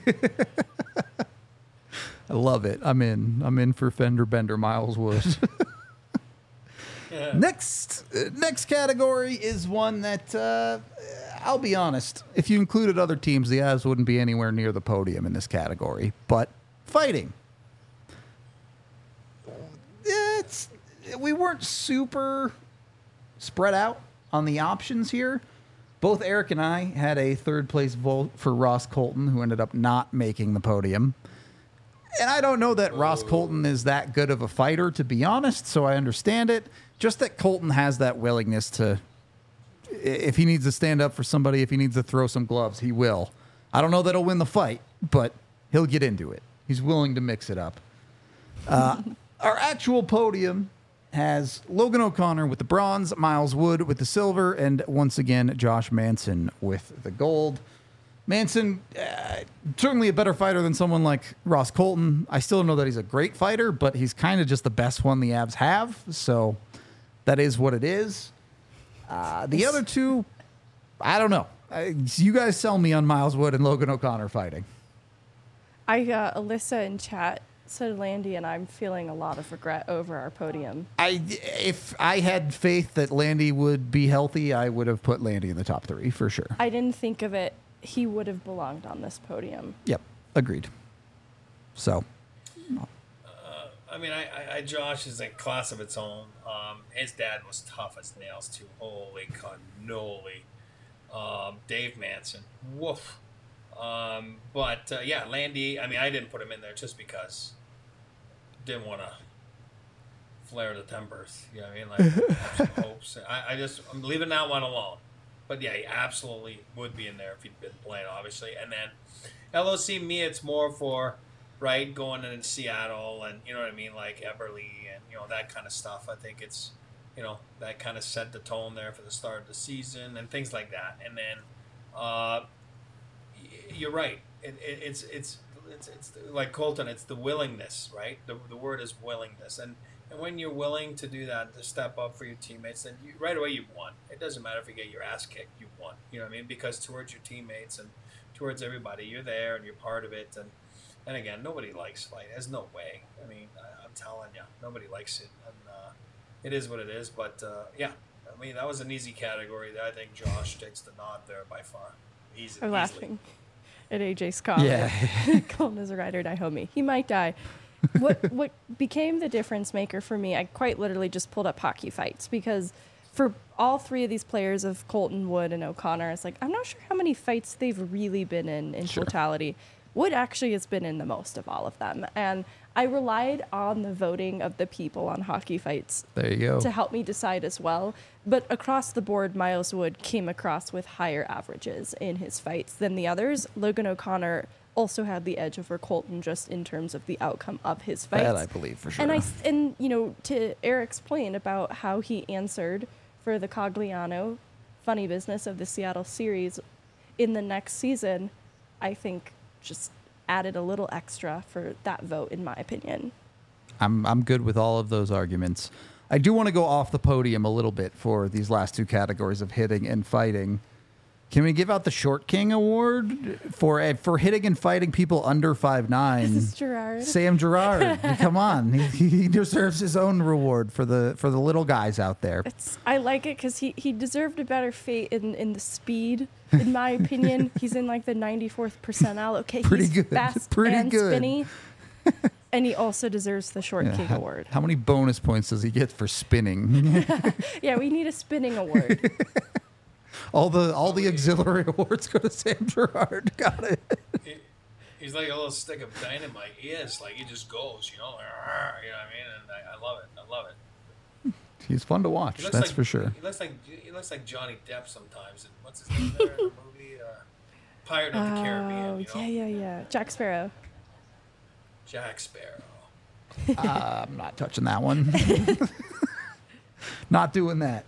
I love it. I'm in. I'm in for fender bender Miles Wood. Yeah. Next, uh, next category is one that uh, I'll be honest. If you included other teams, the Avs wouldn't be anywhere near the podium in this category. But fighting, it's we weren't super spread out on the options here. Both Eric and I had a third place vote for Ross Colton, who ended up not making the podium. And I don't know that Ross Colton is that good of a fighter, to be honest, so I understand it. Just that Colton has that willingness to, if he needs to stand up for somebody, if he needs to throw some gloves, he will. I don't know that he'll win the fight, but he'll get into it. He's willing to mix it up. Uh, our actual podium has Logan O'Connor with the bronze, Miles Wood with the silver, and once again, Josh Manson with the gold. Manson, uh, certainly a better fighter than someone like Ross Colton. I still don't know that he's a great fighter, but he's kind of just the best one the Avs have. So that is what it is. Uh, the other two, I don't know. I, you guys sell me on Miles Wood and Logan O'Connor fighting. I uh, Alyssa in chat said Landy, and I'm feeling a lot of regret over our podium. I, if I had faith that Landy would be healthy, I would have put Landy in the top three for sure. I didn't think of it. He would have belonged on this podium. Yep, agreed. So, I mean, I, I, I Josh is a class of its own. Um, his dad was tough as nails too. Holy cannoli. Um, Dave Manson, woof. Um, but uh, yeah, Landy. I mean, I didn't put him in there just because didn't want to flare the tempers. You know what I mean? Like have some hopes. I, I just I'm leaving that one alone. But yeah, he absolutely would be in there if he'd been playing, obviously. And then L O C, me, it's more for, right, going in Seattle and, you know what I mean, like Eberle and, you know, that kind of stuff. I think it's, you know, that kind of set the tone there for the start of the season and things like that. And then uh, you're right. It, it, it's, it's, it's, it's like Colton, it's the willingness, right? The, the word is willingness. And And when you're willing to do that, to step up for your teammates, then you, right away you've won. It doesn't matter if you get your ass kicked, you've won. You know what I mean? Because towards your teammates and towards everybody, you're there and you're part of it. And and again, nobody likes fighting. There's no way. I mean, I, I'm telling you, nobody likes it. And uh, it is what it is. But uh, yeah, I mean, that was an easy category. I think Josh takes the nod there by far. Easy, I'm easily. laughing at A J Scott. Yeah. Colton is a ride or die homie. He might die. What what became the difference maker for me, I quite literally just pulled up hockey fights because for all three of these players of Colton, Wood, and O'Connor, it's like, I'm not sure how many fights they've really been in in Sure. totality. Wood actually has been in the most of all of them. And I relied on the voting of the people on hockey fights There you go. to help me decide as well. But across the board, Miles Wood came across with higher averages in his fights than the others. Logan O'Connor also had the edge over Colton just in terms of the outcome of his fights. That I believe for sure. And I and you know, to Eric's point about how he answered for the Cogliano funny business of the Seattle series in the next season, I think just added a little extra for that vote, in my opinion. I'm I'm good with all of those arguments. I do want to go off the podium a little bit for these last two categories of hitting and fighting. Can we give out the Short King Award for uh, for hitting and fighting people under five nine? This is Gerard. Sam Gerard, come on, he, he deserves his own reward for the for the little guys out there. It's, I like it because he, he deserved a better fate in, in the speed, in my opinion. He's in like the ninety-fourth percentile. Okay, Pretty he's good, fast pretty and good. spinny. And he also deserves the Short Yeah, King how, Award. how many bonus points does he get for spinning? Yeah, we need a spinning award. all the all the auxiliary awards go to Sam Gerard. Got it. He, he's like a little stick of dynamite. He is. Like, he just goes, you know? Like, "Arr," you know what I mean? And I, I love it. I love it. He's fun to watch. He looks That's like, for sure. He looks like he looks like Johnny Depp sometimes. And what's his name there in the movie? Uh, Pirate of the Caribbean. Oh, You know? yeah, yeah, yeah. Jack Sparrow. Jack Sparrow. Uh, I'm not touching that one. Not doing that.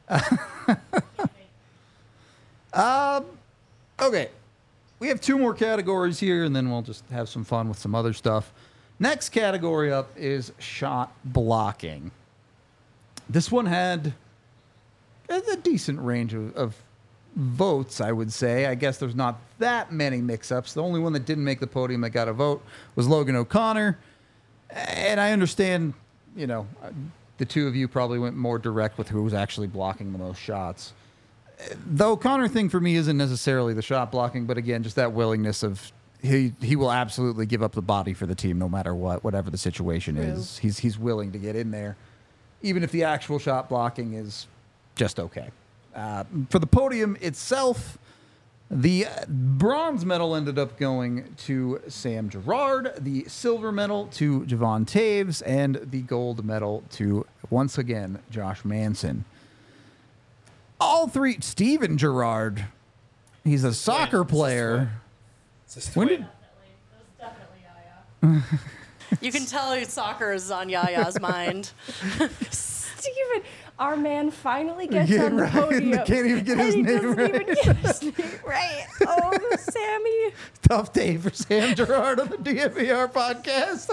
um, okay. We have two more categories here, and then we'll just have some fun with some other stuff. Next category up is shot blocking. This one had a, a decent range of, of votes, I would say. I guess there's not that many mix-ups. The only one that didn't make the podium that got a vote was Logan O'Connor. And I understand, you know, the two of you probably went more direct with who was actually blocking the most shots. The O'Connor thing for me isn't necessarily the shot blocking, but again, just that willingness of he he will absolutely give up the body for the team no matter what, whatever the situation True. is. He's he's willing to get in there, even if the actual shot blocking is just okay. Uh, for the podium itself, the bronze medal ended up going to Sam Gerard, the silver medal to Javon Taves, and the gold medal to, once again, Josh Manson. All three, Steven Gerard, he's a soccer It's his player. twin. It's his When twin. did- Definitely. It was definitely Yaya. You can tell soccer is on Yaya's mind. Steven, our man finally gets Yeah, on the right. podium. Can't even get and his he name doesn't right. even get his name right. Oh, Sammy. Tough day for Sam Gerard on the D M V R podcast.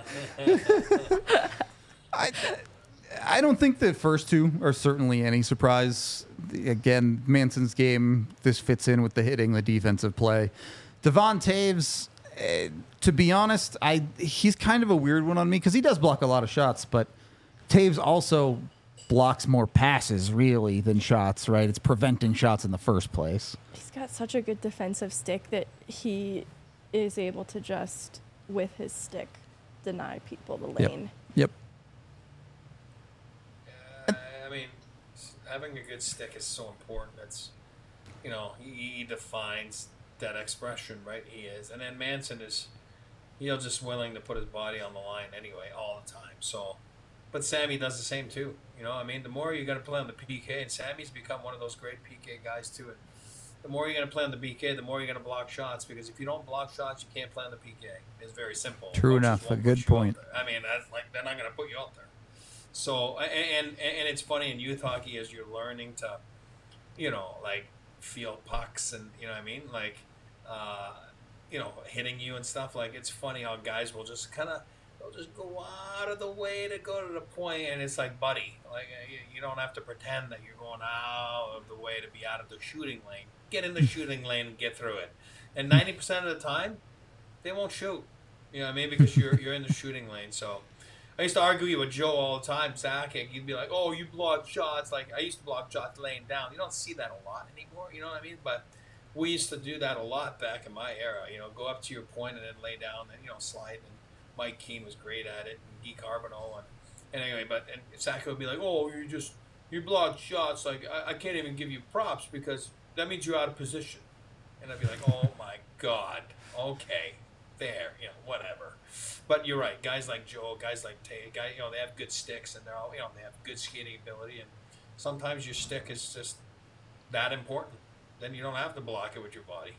I, I don't think the first two are certainly any surprise. Again, Manson's game, this fits in with the hitting, the defensive play. Devon Taves, eh, to be honest, I he's kind of a weird one on me because he does block a lot of shots, but Taves also blocks more passes, really, than shots, right? It's preventing shots in the first place. He's got such a good defensive stick that he is able to just, with his stick, deny people the Yep. lane. Yep. Uh, I mean, s- having a good stick is so important. It's, you know, he, he defines that expression, right? He is. And then Manson is, you know, just willing to put his body on the line anyway, all the time. So, but Sammy does the same too. You know, I mean, the more you're going to play on the P K, and Sammy's become one of those great P K guys too. And the more you're going to play on the P K, the more you're going to block shots, because if you don't block shots, you can't play on the P K. It's very simple. True Coaches enough. A won't good push you out point. there. I mean, that's like they're not going to put you out there. So, and, and and it's funny in youth hockey as you're learning to, you know, like feel pucks and you know what I mean, like, uh, you know, hitting you and stuff. Like it's funny how guys will just kind of they'll just go out of the way to go to the point, and it's like, buddy, like you, you don't have to pretend that you're going out of the way to be out of the shooting lane. Get in the shooting lane and get through it. And ninety percent of the time, they won't shoot. You know what I mean? Because you're you're in the shooting lane. So I used to argue with Joe all the time, Zach. He'd be like, "Oh, you block shots." Like I used to block shots laying down. You don't see that a lot anymore. You know what I mean? But we used to do that a lot back in my era. You know, go up to your point and then lay down and, you know, slide. And Mike Keane was great at it, and Guy Carbonneau. And, and anyway, but and Zach would be like, "Oh, you just you block shots. Like I, I can't even give you props because that means you're out of position." And I'd be like, "Oh my God, okay, there, you know, whatever." But you're right. Guys like Joe, guys like Tay, guy, you know, they have good sticks and they're all, you know, they have good skating ability. And sometimes your stick is just that important. Then you don't have to block it with your body.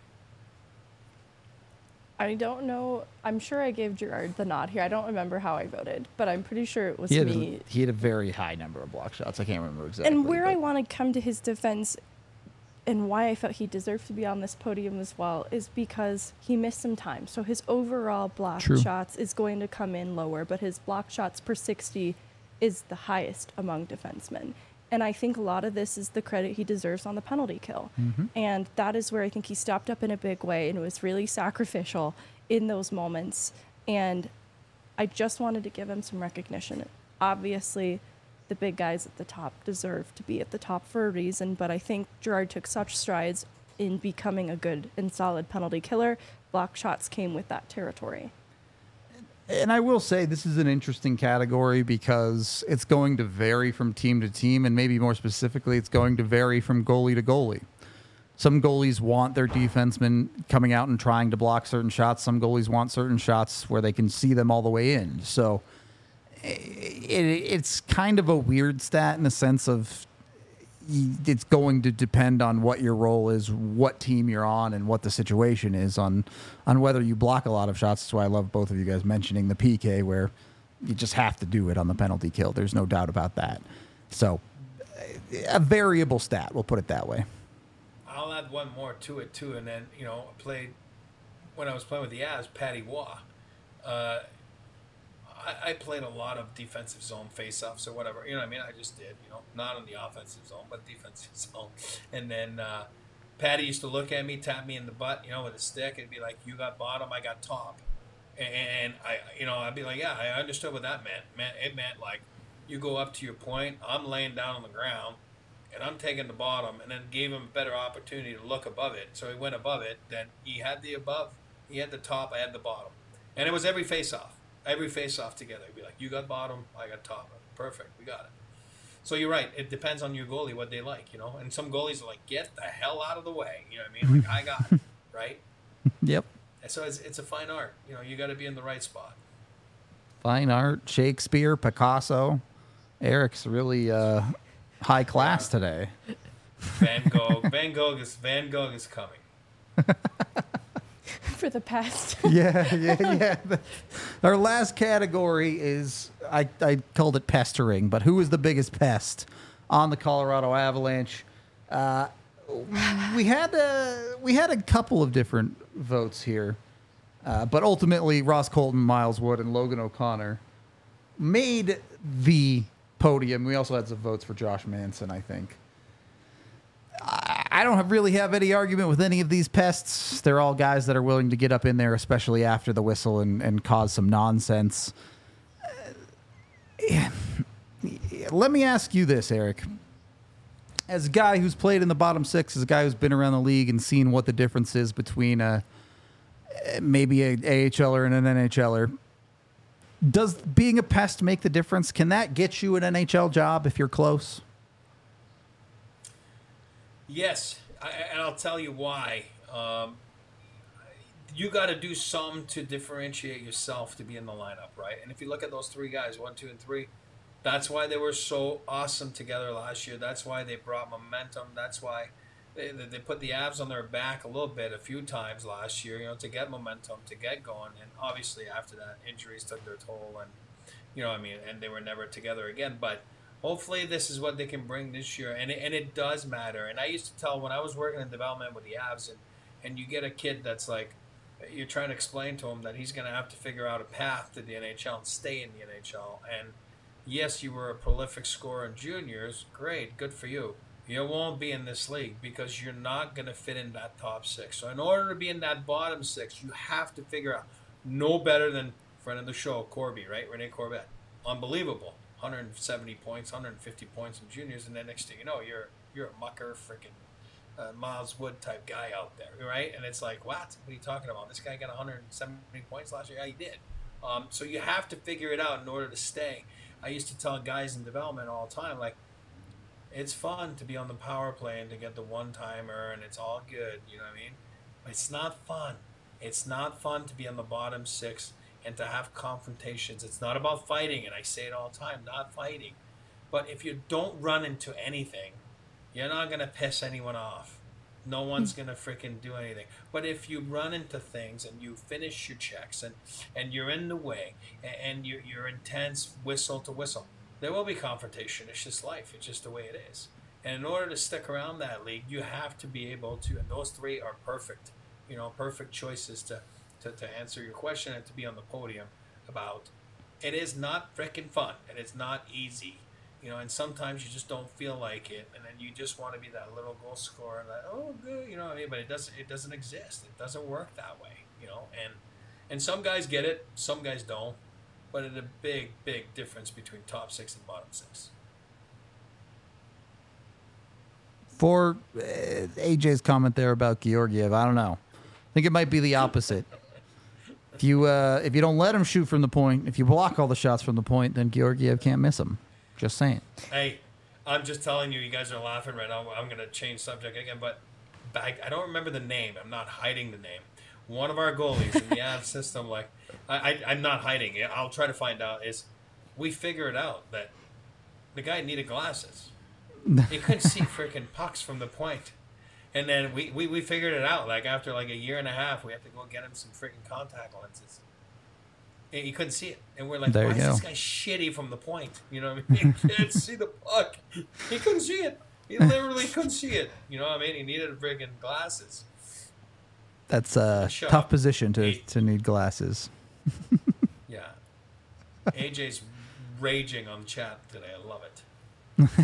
I don't know. I'm sure I gave Gerard the nod here. I don't remember how I voted, but I'm pretty sure it was He had, me. a, he had a very high number of block shots. I can't remember exactly. And where but- I want to come to his defense and why I felt he deserved to be on this podium as well is because he missed some time. So his overall block True. shots is going to come in lower, but his block shots per sixty is the highest among defensemen. And I think a lot of this is the credit he deserves on the penalty kill. Mm-hmm. And that is where I think he stepped up in a big way and was really sacrificial in those moments. And I just wanted to give him some recognition. Obviously, the big guys at the top deserve to be at the top for a reason, but I think Gerard took such strides in becoming a good and solid penalty killer. Block shots came with that territory. And I will say this is an interesting category because it's going to vary from team to team, and maybe more specifically, it's going to vary from goalie to goalie. Some goalies want their defensemen coming out and trying to block certain shots. Some goalies want certain shots where they can see them all the way in. So it, it's kind of a weird stat in the sense of it's going to depend on what your role is, what team you're on, and what the situation is on on whether you block a lot of shots. That's why I love both of you guys mentioning the P K, where you just have to do it on the penalty kill. There's no doubt about that. So a variable stat, we'll put it that way. I'll add one more to it too, and then you know, I played when I was playing with the Avs, Patty Waugh. Uh, I, I played a lot of defensive zone face-offs or whatever. You know what I mean? I just did. You know, not in the offensive zone, but defensive zone. And then uh, Patty used to look at me, tap me in the butt, you know, with a stick, and be like, "You got bottom, I got top." And I, you know, I'd be like, "Yeah, I understood what that meant. Man, it meant like you go up to your point, I'm laying down on the ground, and I'm taking the bottom," and then gave him a better opportunity to look above it. So he went above it. Then he had the above, he had the top, I had the bottom, and it was every face-off. Every face-off together. It'd be like, "You got bottom, I got top." Perfect, we got it. So you're right. It depends on your goalie, what they like, you know. And some goalies are like, "Get the hell out of the way." You know what I mean? Like, I got it, right? Yep. And so it's, it's a fine art. You know, you got to be in the right spot. Fine art, Shakespeare, Picasso. Eric's really uh, high class today. Van Gogh. Van Gogh is Van Gogh is coming. For the past. yeah, yeah, yeah. Our last category is, I, I called it pestering, but who is the biggest pest on the Colorado Avalanche? Uh, we had a, we had a couple of different votes here, uh, but ultimately Ross Colton, Miles Wood, and Logan O'Connor made the podium. We also had some votes for Josh Manson, I think. I don't have really have any argument with any of these pests. They're all guys that are willing to get up in there, especially after the whistle, and, and cause some nonsense. Uh, let me ask you this, Eric. As a guy who's played in the bottom six, as a guy who's been around the league and seen what the difference is between a, maybe a AHLer and an NHLer, does being a pest make the difference? Can that get you an N H L job if you're close? Yes, I, and I'll tell you why. Um, you got to do something to differentiate yourself to be in the lineup, right? And if you look at those three guys, one, two, and three, that's why they were so awesome together last year. That's why they brought momentum. That's why they, they put the Avs on their back a little bit a few times last year, you know, to get momentum, to get going. And obviously after that, injuries took their toll, and you know what I mean, and they were never together again. But hopefully this is what they can bring this year, and it, and it does matter. And I used to tell when I was working in development with the Avs, and, and you get a kid that's like you're trying to explain to him that he's going to have to figure out a path to the N H L and stay in the N H L. And yes, you were a prolific scorer in juniors. Great, good for you. You won't be in this league because you're not going to fit in that top six. So in order to be in that bottom six, you have to figure out no better than friend of the show, Corby, right? Rene Corbett. Unbelievable. one hundred seventy points, one hundred fifty points in juniors, and then next thing you know, you're you're a mucker, freaking uh, Miles Wood type guy out there, right? And it's like, what? What are you talking about? This guy got one hundred seventy points last year. Yeah, he did. Um, so you have to figure it out in order to stay. I used to tell guys in development all the time, like, it's fun to be on the power play and to get the one-timer, and it's all good, you know what I mean? But it's not fun. It's not fun to be on the bottom six and to have confrontations. It's not about fighting, and I say it all the time, not fighting. But if you don't run into anything, you're not going to piss anyone off. No one's going to freaking do anything. But if you run into things and you finish your checks and, and you're in the way and, and you're, you're intense whistle to whistle, there will be confrontation. It's just life. It's just the way it is. And in order to stick around that league, you have to be able to, and those three are perfect, you know, perfect choices to, to, to answer your question and to be on the podium about. It is not freaking fun, and it's not easy. You know, and sometimes you just don't feel like it, and then you just want to be that little goal scorer, and like, oh, good, you know what I mean? But it doesn't, it doesn't exist. It doesn't work that way, you know. And and some guys get it, some guys don't. But it's a big, big difference between top six and bottom six. For uh, A J's comment there about Georgiev, I don't know. I think it might be the opposite. If you uh, if you don't let him shoot from the point, if you block all the shots from the point, then Georgiev can't miss them. Just saying. Hey, I'm just telling you, you guys are laughing right now. I'm going to change subject again, but back, I don't remember the name. I'm not hiding the name. One of our goalies in the Avs system, like, I, I, I'm not hiding it. I'll try to find out, is we figured out that the guy needed glasses. He couldn't see freaking pucks from the point. And then we, we, we figured it out. Like, after like a year and a half, we have to go get him some freaking contact lenses. And he couldn't see it. And we're like, There why you is go. this guy shitty from the point? You know what I mean? He can't see the puck. He couldn't see it. He literally couldn't see it. You know what I mean? He needed freaking glasses. That's a Shut tough up. position to, Hey. to need glasses. Yeah. A J's raging on chat today. I love it.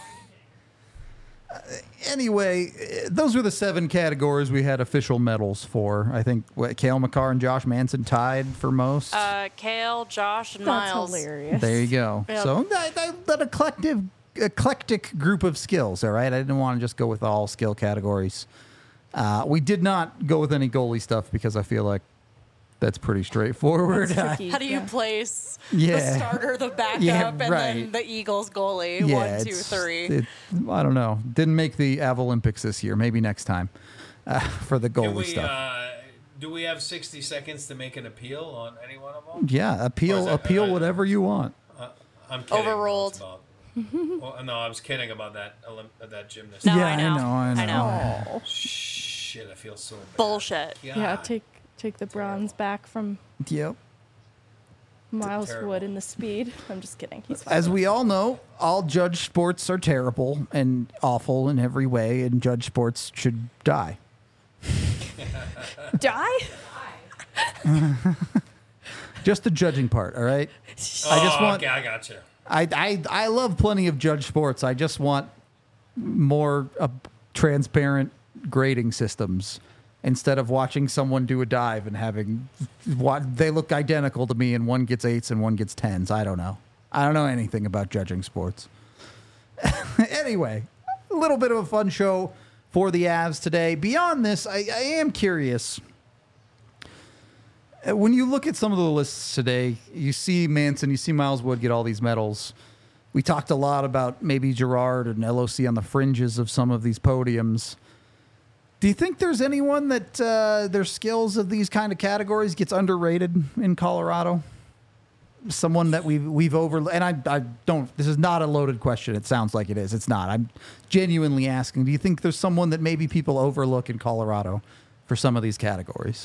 Anyway, eh, those were the seven categories we had official medals for. I think what, Cale Makar and Josh Manson tied for most. Uh, Kale, Josh, and That's Miles. hilarious. There you go. Yep. So that, that, that eclectic, eclectic group of skills, all right? I didn't want to just go with all skill categories. Uh, we did not go with any goalie stuff because I feel like that's pretty straightforward. That's tricky. How do you Yeah. place Yeah. the starter, the backup, Yeah, and right. then the Eagles goalie? Yeah, One, two, it's- three. It, I don't know. Didn't make the Avalympics this year. Maybe next time uh, for the Do goalie we, stuff. uh, do we have sixty seconds to make an appeal on any one of them? Yeah, Or appeal is that- appeal uh, whatever you want. I'm kidding. Overruled. It's about- well, no, I was kidding about that Olymp- that gymnast. No, Yeah, I I know. know, I I know. Oh. Shit, I feel so bad. Bullshit. God. Yeah, take take the bronze back from Yep. Miles terrible. Wood in the speed. I'm just kidding. He's fine. As we all know, all judge sports are terrible and awful in every way, and judge sports should die. Die? Just the judging part, all right? Oh, I just want. okay, I got you. I, I I love plenty of judge sports. I just want more uh, transparent grading systems instead of watching someone do a dive and having what they look identical to me and one gets eights and one gets tens. I don't know. I don't know anything about judging sports. Anyway, a little bit of a fun show for the Avs today. Beyond this, I, I am curious. Uh, When you look at some of the lists today, you see Manson, you see Miles Wood get all these medals. We talked a lot about maybe Gerard and L O C on the fringes of some of these podiums. Do you think there's anyone that uh, their skills of these kind of categories gets underrated in Colorado? Someone that we've we've over and I I don't. This is not a loaded question. It sounds like it is. It's not. I'm genuinely asking. Do you think there's someone that maybe people overlook in Colorado for some of these categories?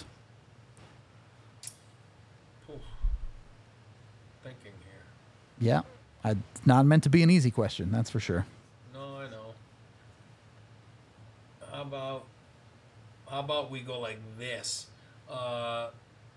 Thinking here. Yeah, I, it's not meant to be an easy question. That's for sure. No, I know. How about how about we go like this? uh,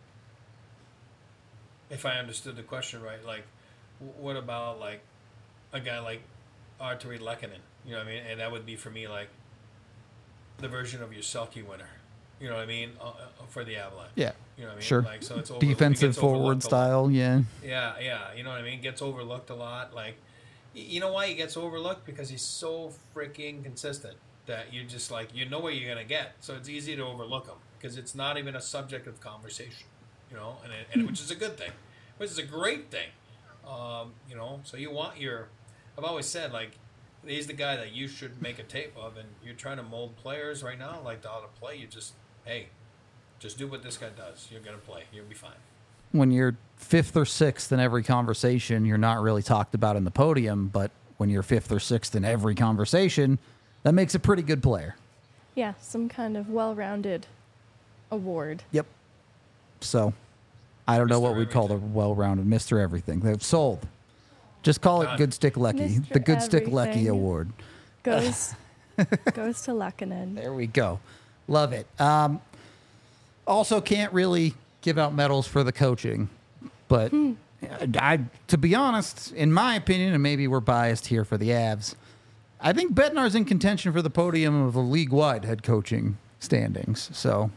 if I understood the question right, like, w- what about like a guy like Arturi Lehkonen? You know what I mean? And that would be for me like the version of your Selke winner. You know what I mean? Uh, uh, for the Avalanche. Yeah. You know what I mean? Sure. Like, so it's over, Defensive it gets overlooked forward a lot. style, yeah. Yeah, yeah. You know what I mean? Gets overlooked a lot. Like, y- you know why he gets overlooked? Because he's so freaking consistent that you just like you know what you're gonna get. So it's easy to overlook him because it's not even a subject of conversation. You know, and, it, and which is a good thing, which is a great thing. Um, you know, so you want your. I've always said like, he's the guy that you should make a tape of, and you're trying to mold players right now like how to play. You just hey, just do what this guy does. You're gonna play. You'll be fine. When you're fifth or sixth in every conversation, you're not really talked about in the podium, but when you're fifth or sixth in every conversation, that makes a pretty good player. Yeah, some kind of well-rounded award. Yep. So, I don't know Mister what we'd call the Everything. well-rounded Mister Everything. They've sold. Just call it Done. Good Stick Lecky. Mister The Good Stick Lecky Everything. Award. Goes goes to Lehkonen. There we go. Love it. Um, also, can't really give out medals for the coaching, but I, to be honest, in my opinion, and maybe we're biased here for the Avs, I think Bednar's in contention for the podium of the league-wide head coaching standings. So,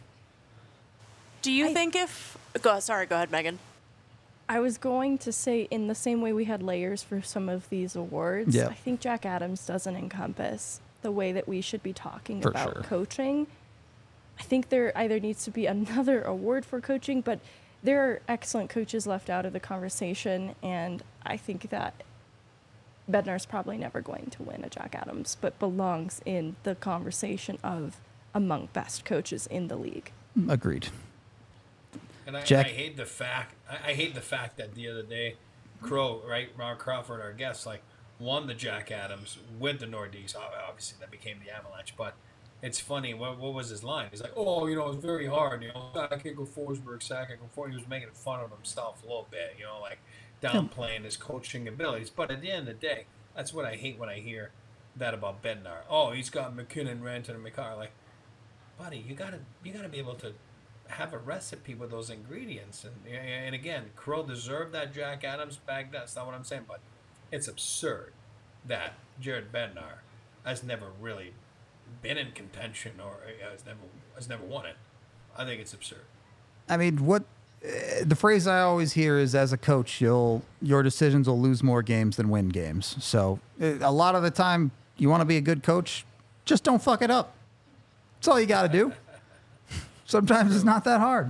Do you I- think if go sorry, go ahead, Megan. I was going to say, in the same way we had layers for some of these awards, Yeah. I think Jack Adams doesn't encompass the way that we should be talking For about sure. coaching. I think there either needs to be another award for coaching, but there are excellent coaches left out of the conversation, and I think that Bednar's probably never going to win a Jack Adams, but belongs in the conversation of among best coaches in the league. agreed. And I, Jack- I hate the fact. I, I hate the fact that the other day, Crow, right, Ron Crawford, our guest, like won the Jack Adams with the Nordiques. Ob- Obviously, that became the Avalanche. But it's funny. What, what was his line? He's like, "Oh, you know, it's very hard. You know, I can't go Forsberg, sack. I can go for." He was making fun of himself a little bit. You know, like downplaying his coaching abilities. But at the end of the day, that's what I hate when I hear that about Bednar. Oh, he's got McKinnon, Rantanen, and McCarr. Like, buddy, you gotta you gotta be able to have a recipe with those ingredients. And and again, Crow deserved that Jack Adams bag. That's not what I'm saying, but it's absurd that Jared Bednar has never really been in contention or has never has never won it. I think it's absurd. I mean, what uh, the phrase I always hear is, as a coach, you'll your decisions will lose more games than win games. So uh, a lot of the time, you want to be a good coach, just don't fuck it up. That's all you got to do. Sometimes it's not that hard.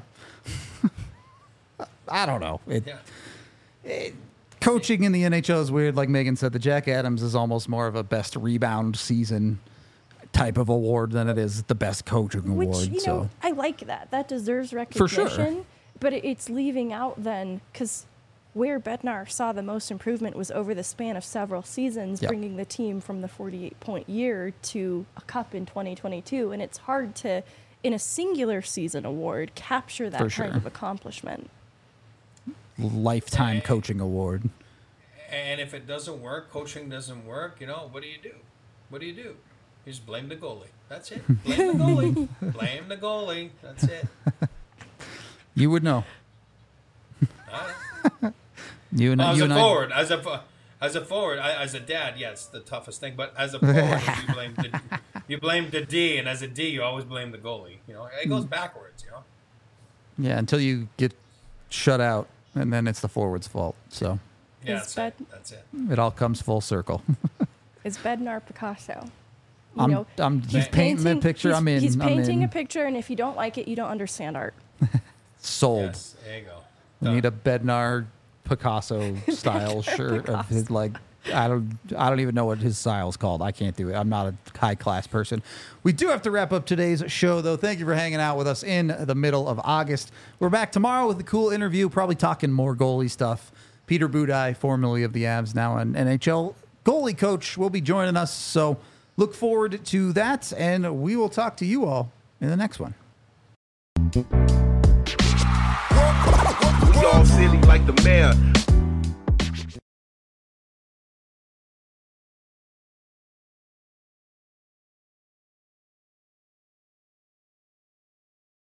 I don't know. It, Yeah. coaching in the N H L is weird. Like Megan said, the Jack Adams is almost more of a best rebound season type of award than it is the best coaching Which, award. you so know, I like that. That deserves For recognition. sure. But it- it's leaving out then, because where Bednar saw the most improvement was over the span of several seasons, Yep. bringing the team from the forty-eight point year to a cup in twenty twenty-two. And it's hard to, in a singular season award, capture that For kind sure. of accomplishment. lifetime coaching award. And if it doesn't work, coaching doesn't work, you know, what do you do? What do you do? You just blame the goalie. That's it. Blame the goalie. Blame the goalie. That's it. You would know. All right. You and As you a and forward, as a fo- as a forward, I, as a dad, yeah, it's the toughest thing. But as a forward, you blame the you blame the D, and as a D, you always blame the goalie. You know, it goes backwards. You know. I, yeah, until you get shut out, and then it's the forward's fault. So Yeah, Is that's it. Bed- That's it. it all comes full circle. Is Bednar Picasso? You I'm, know, I'm he's painting the picture. He's, I'm in. he's I'm painting in. a picture, and if you don't like it, you don't understand art. Sold. Yes, there you go. We need a Bednar Picasso style shirt of his, like, I don't I don't even know what his style is called. I can't do it. I'm not a high class person. We do have to wrap up today's show though. Thank you for hanging out with us in the middle of August. We're back tomorrow with a cool interview, probably talking more goalie stuff. Peter Budaj, formerly of the Avs, now an N H L goalie coach, will be joining us. So look forward to that, and we will talk to you all in the next one. We all silly like the mayor.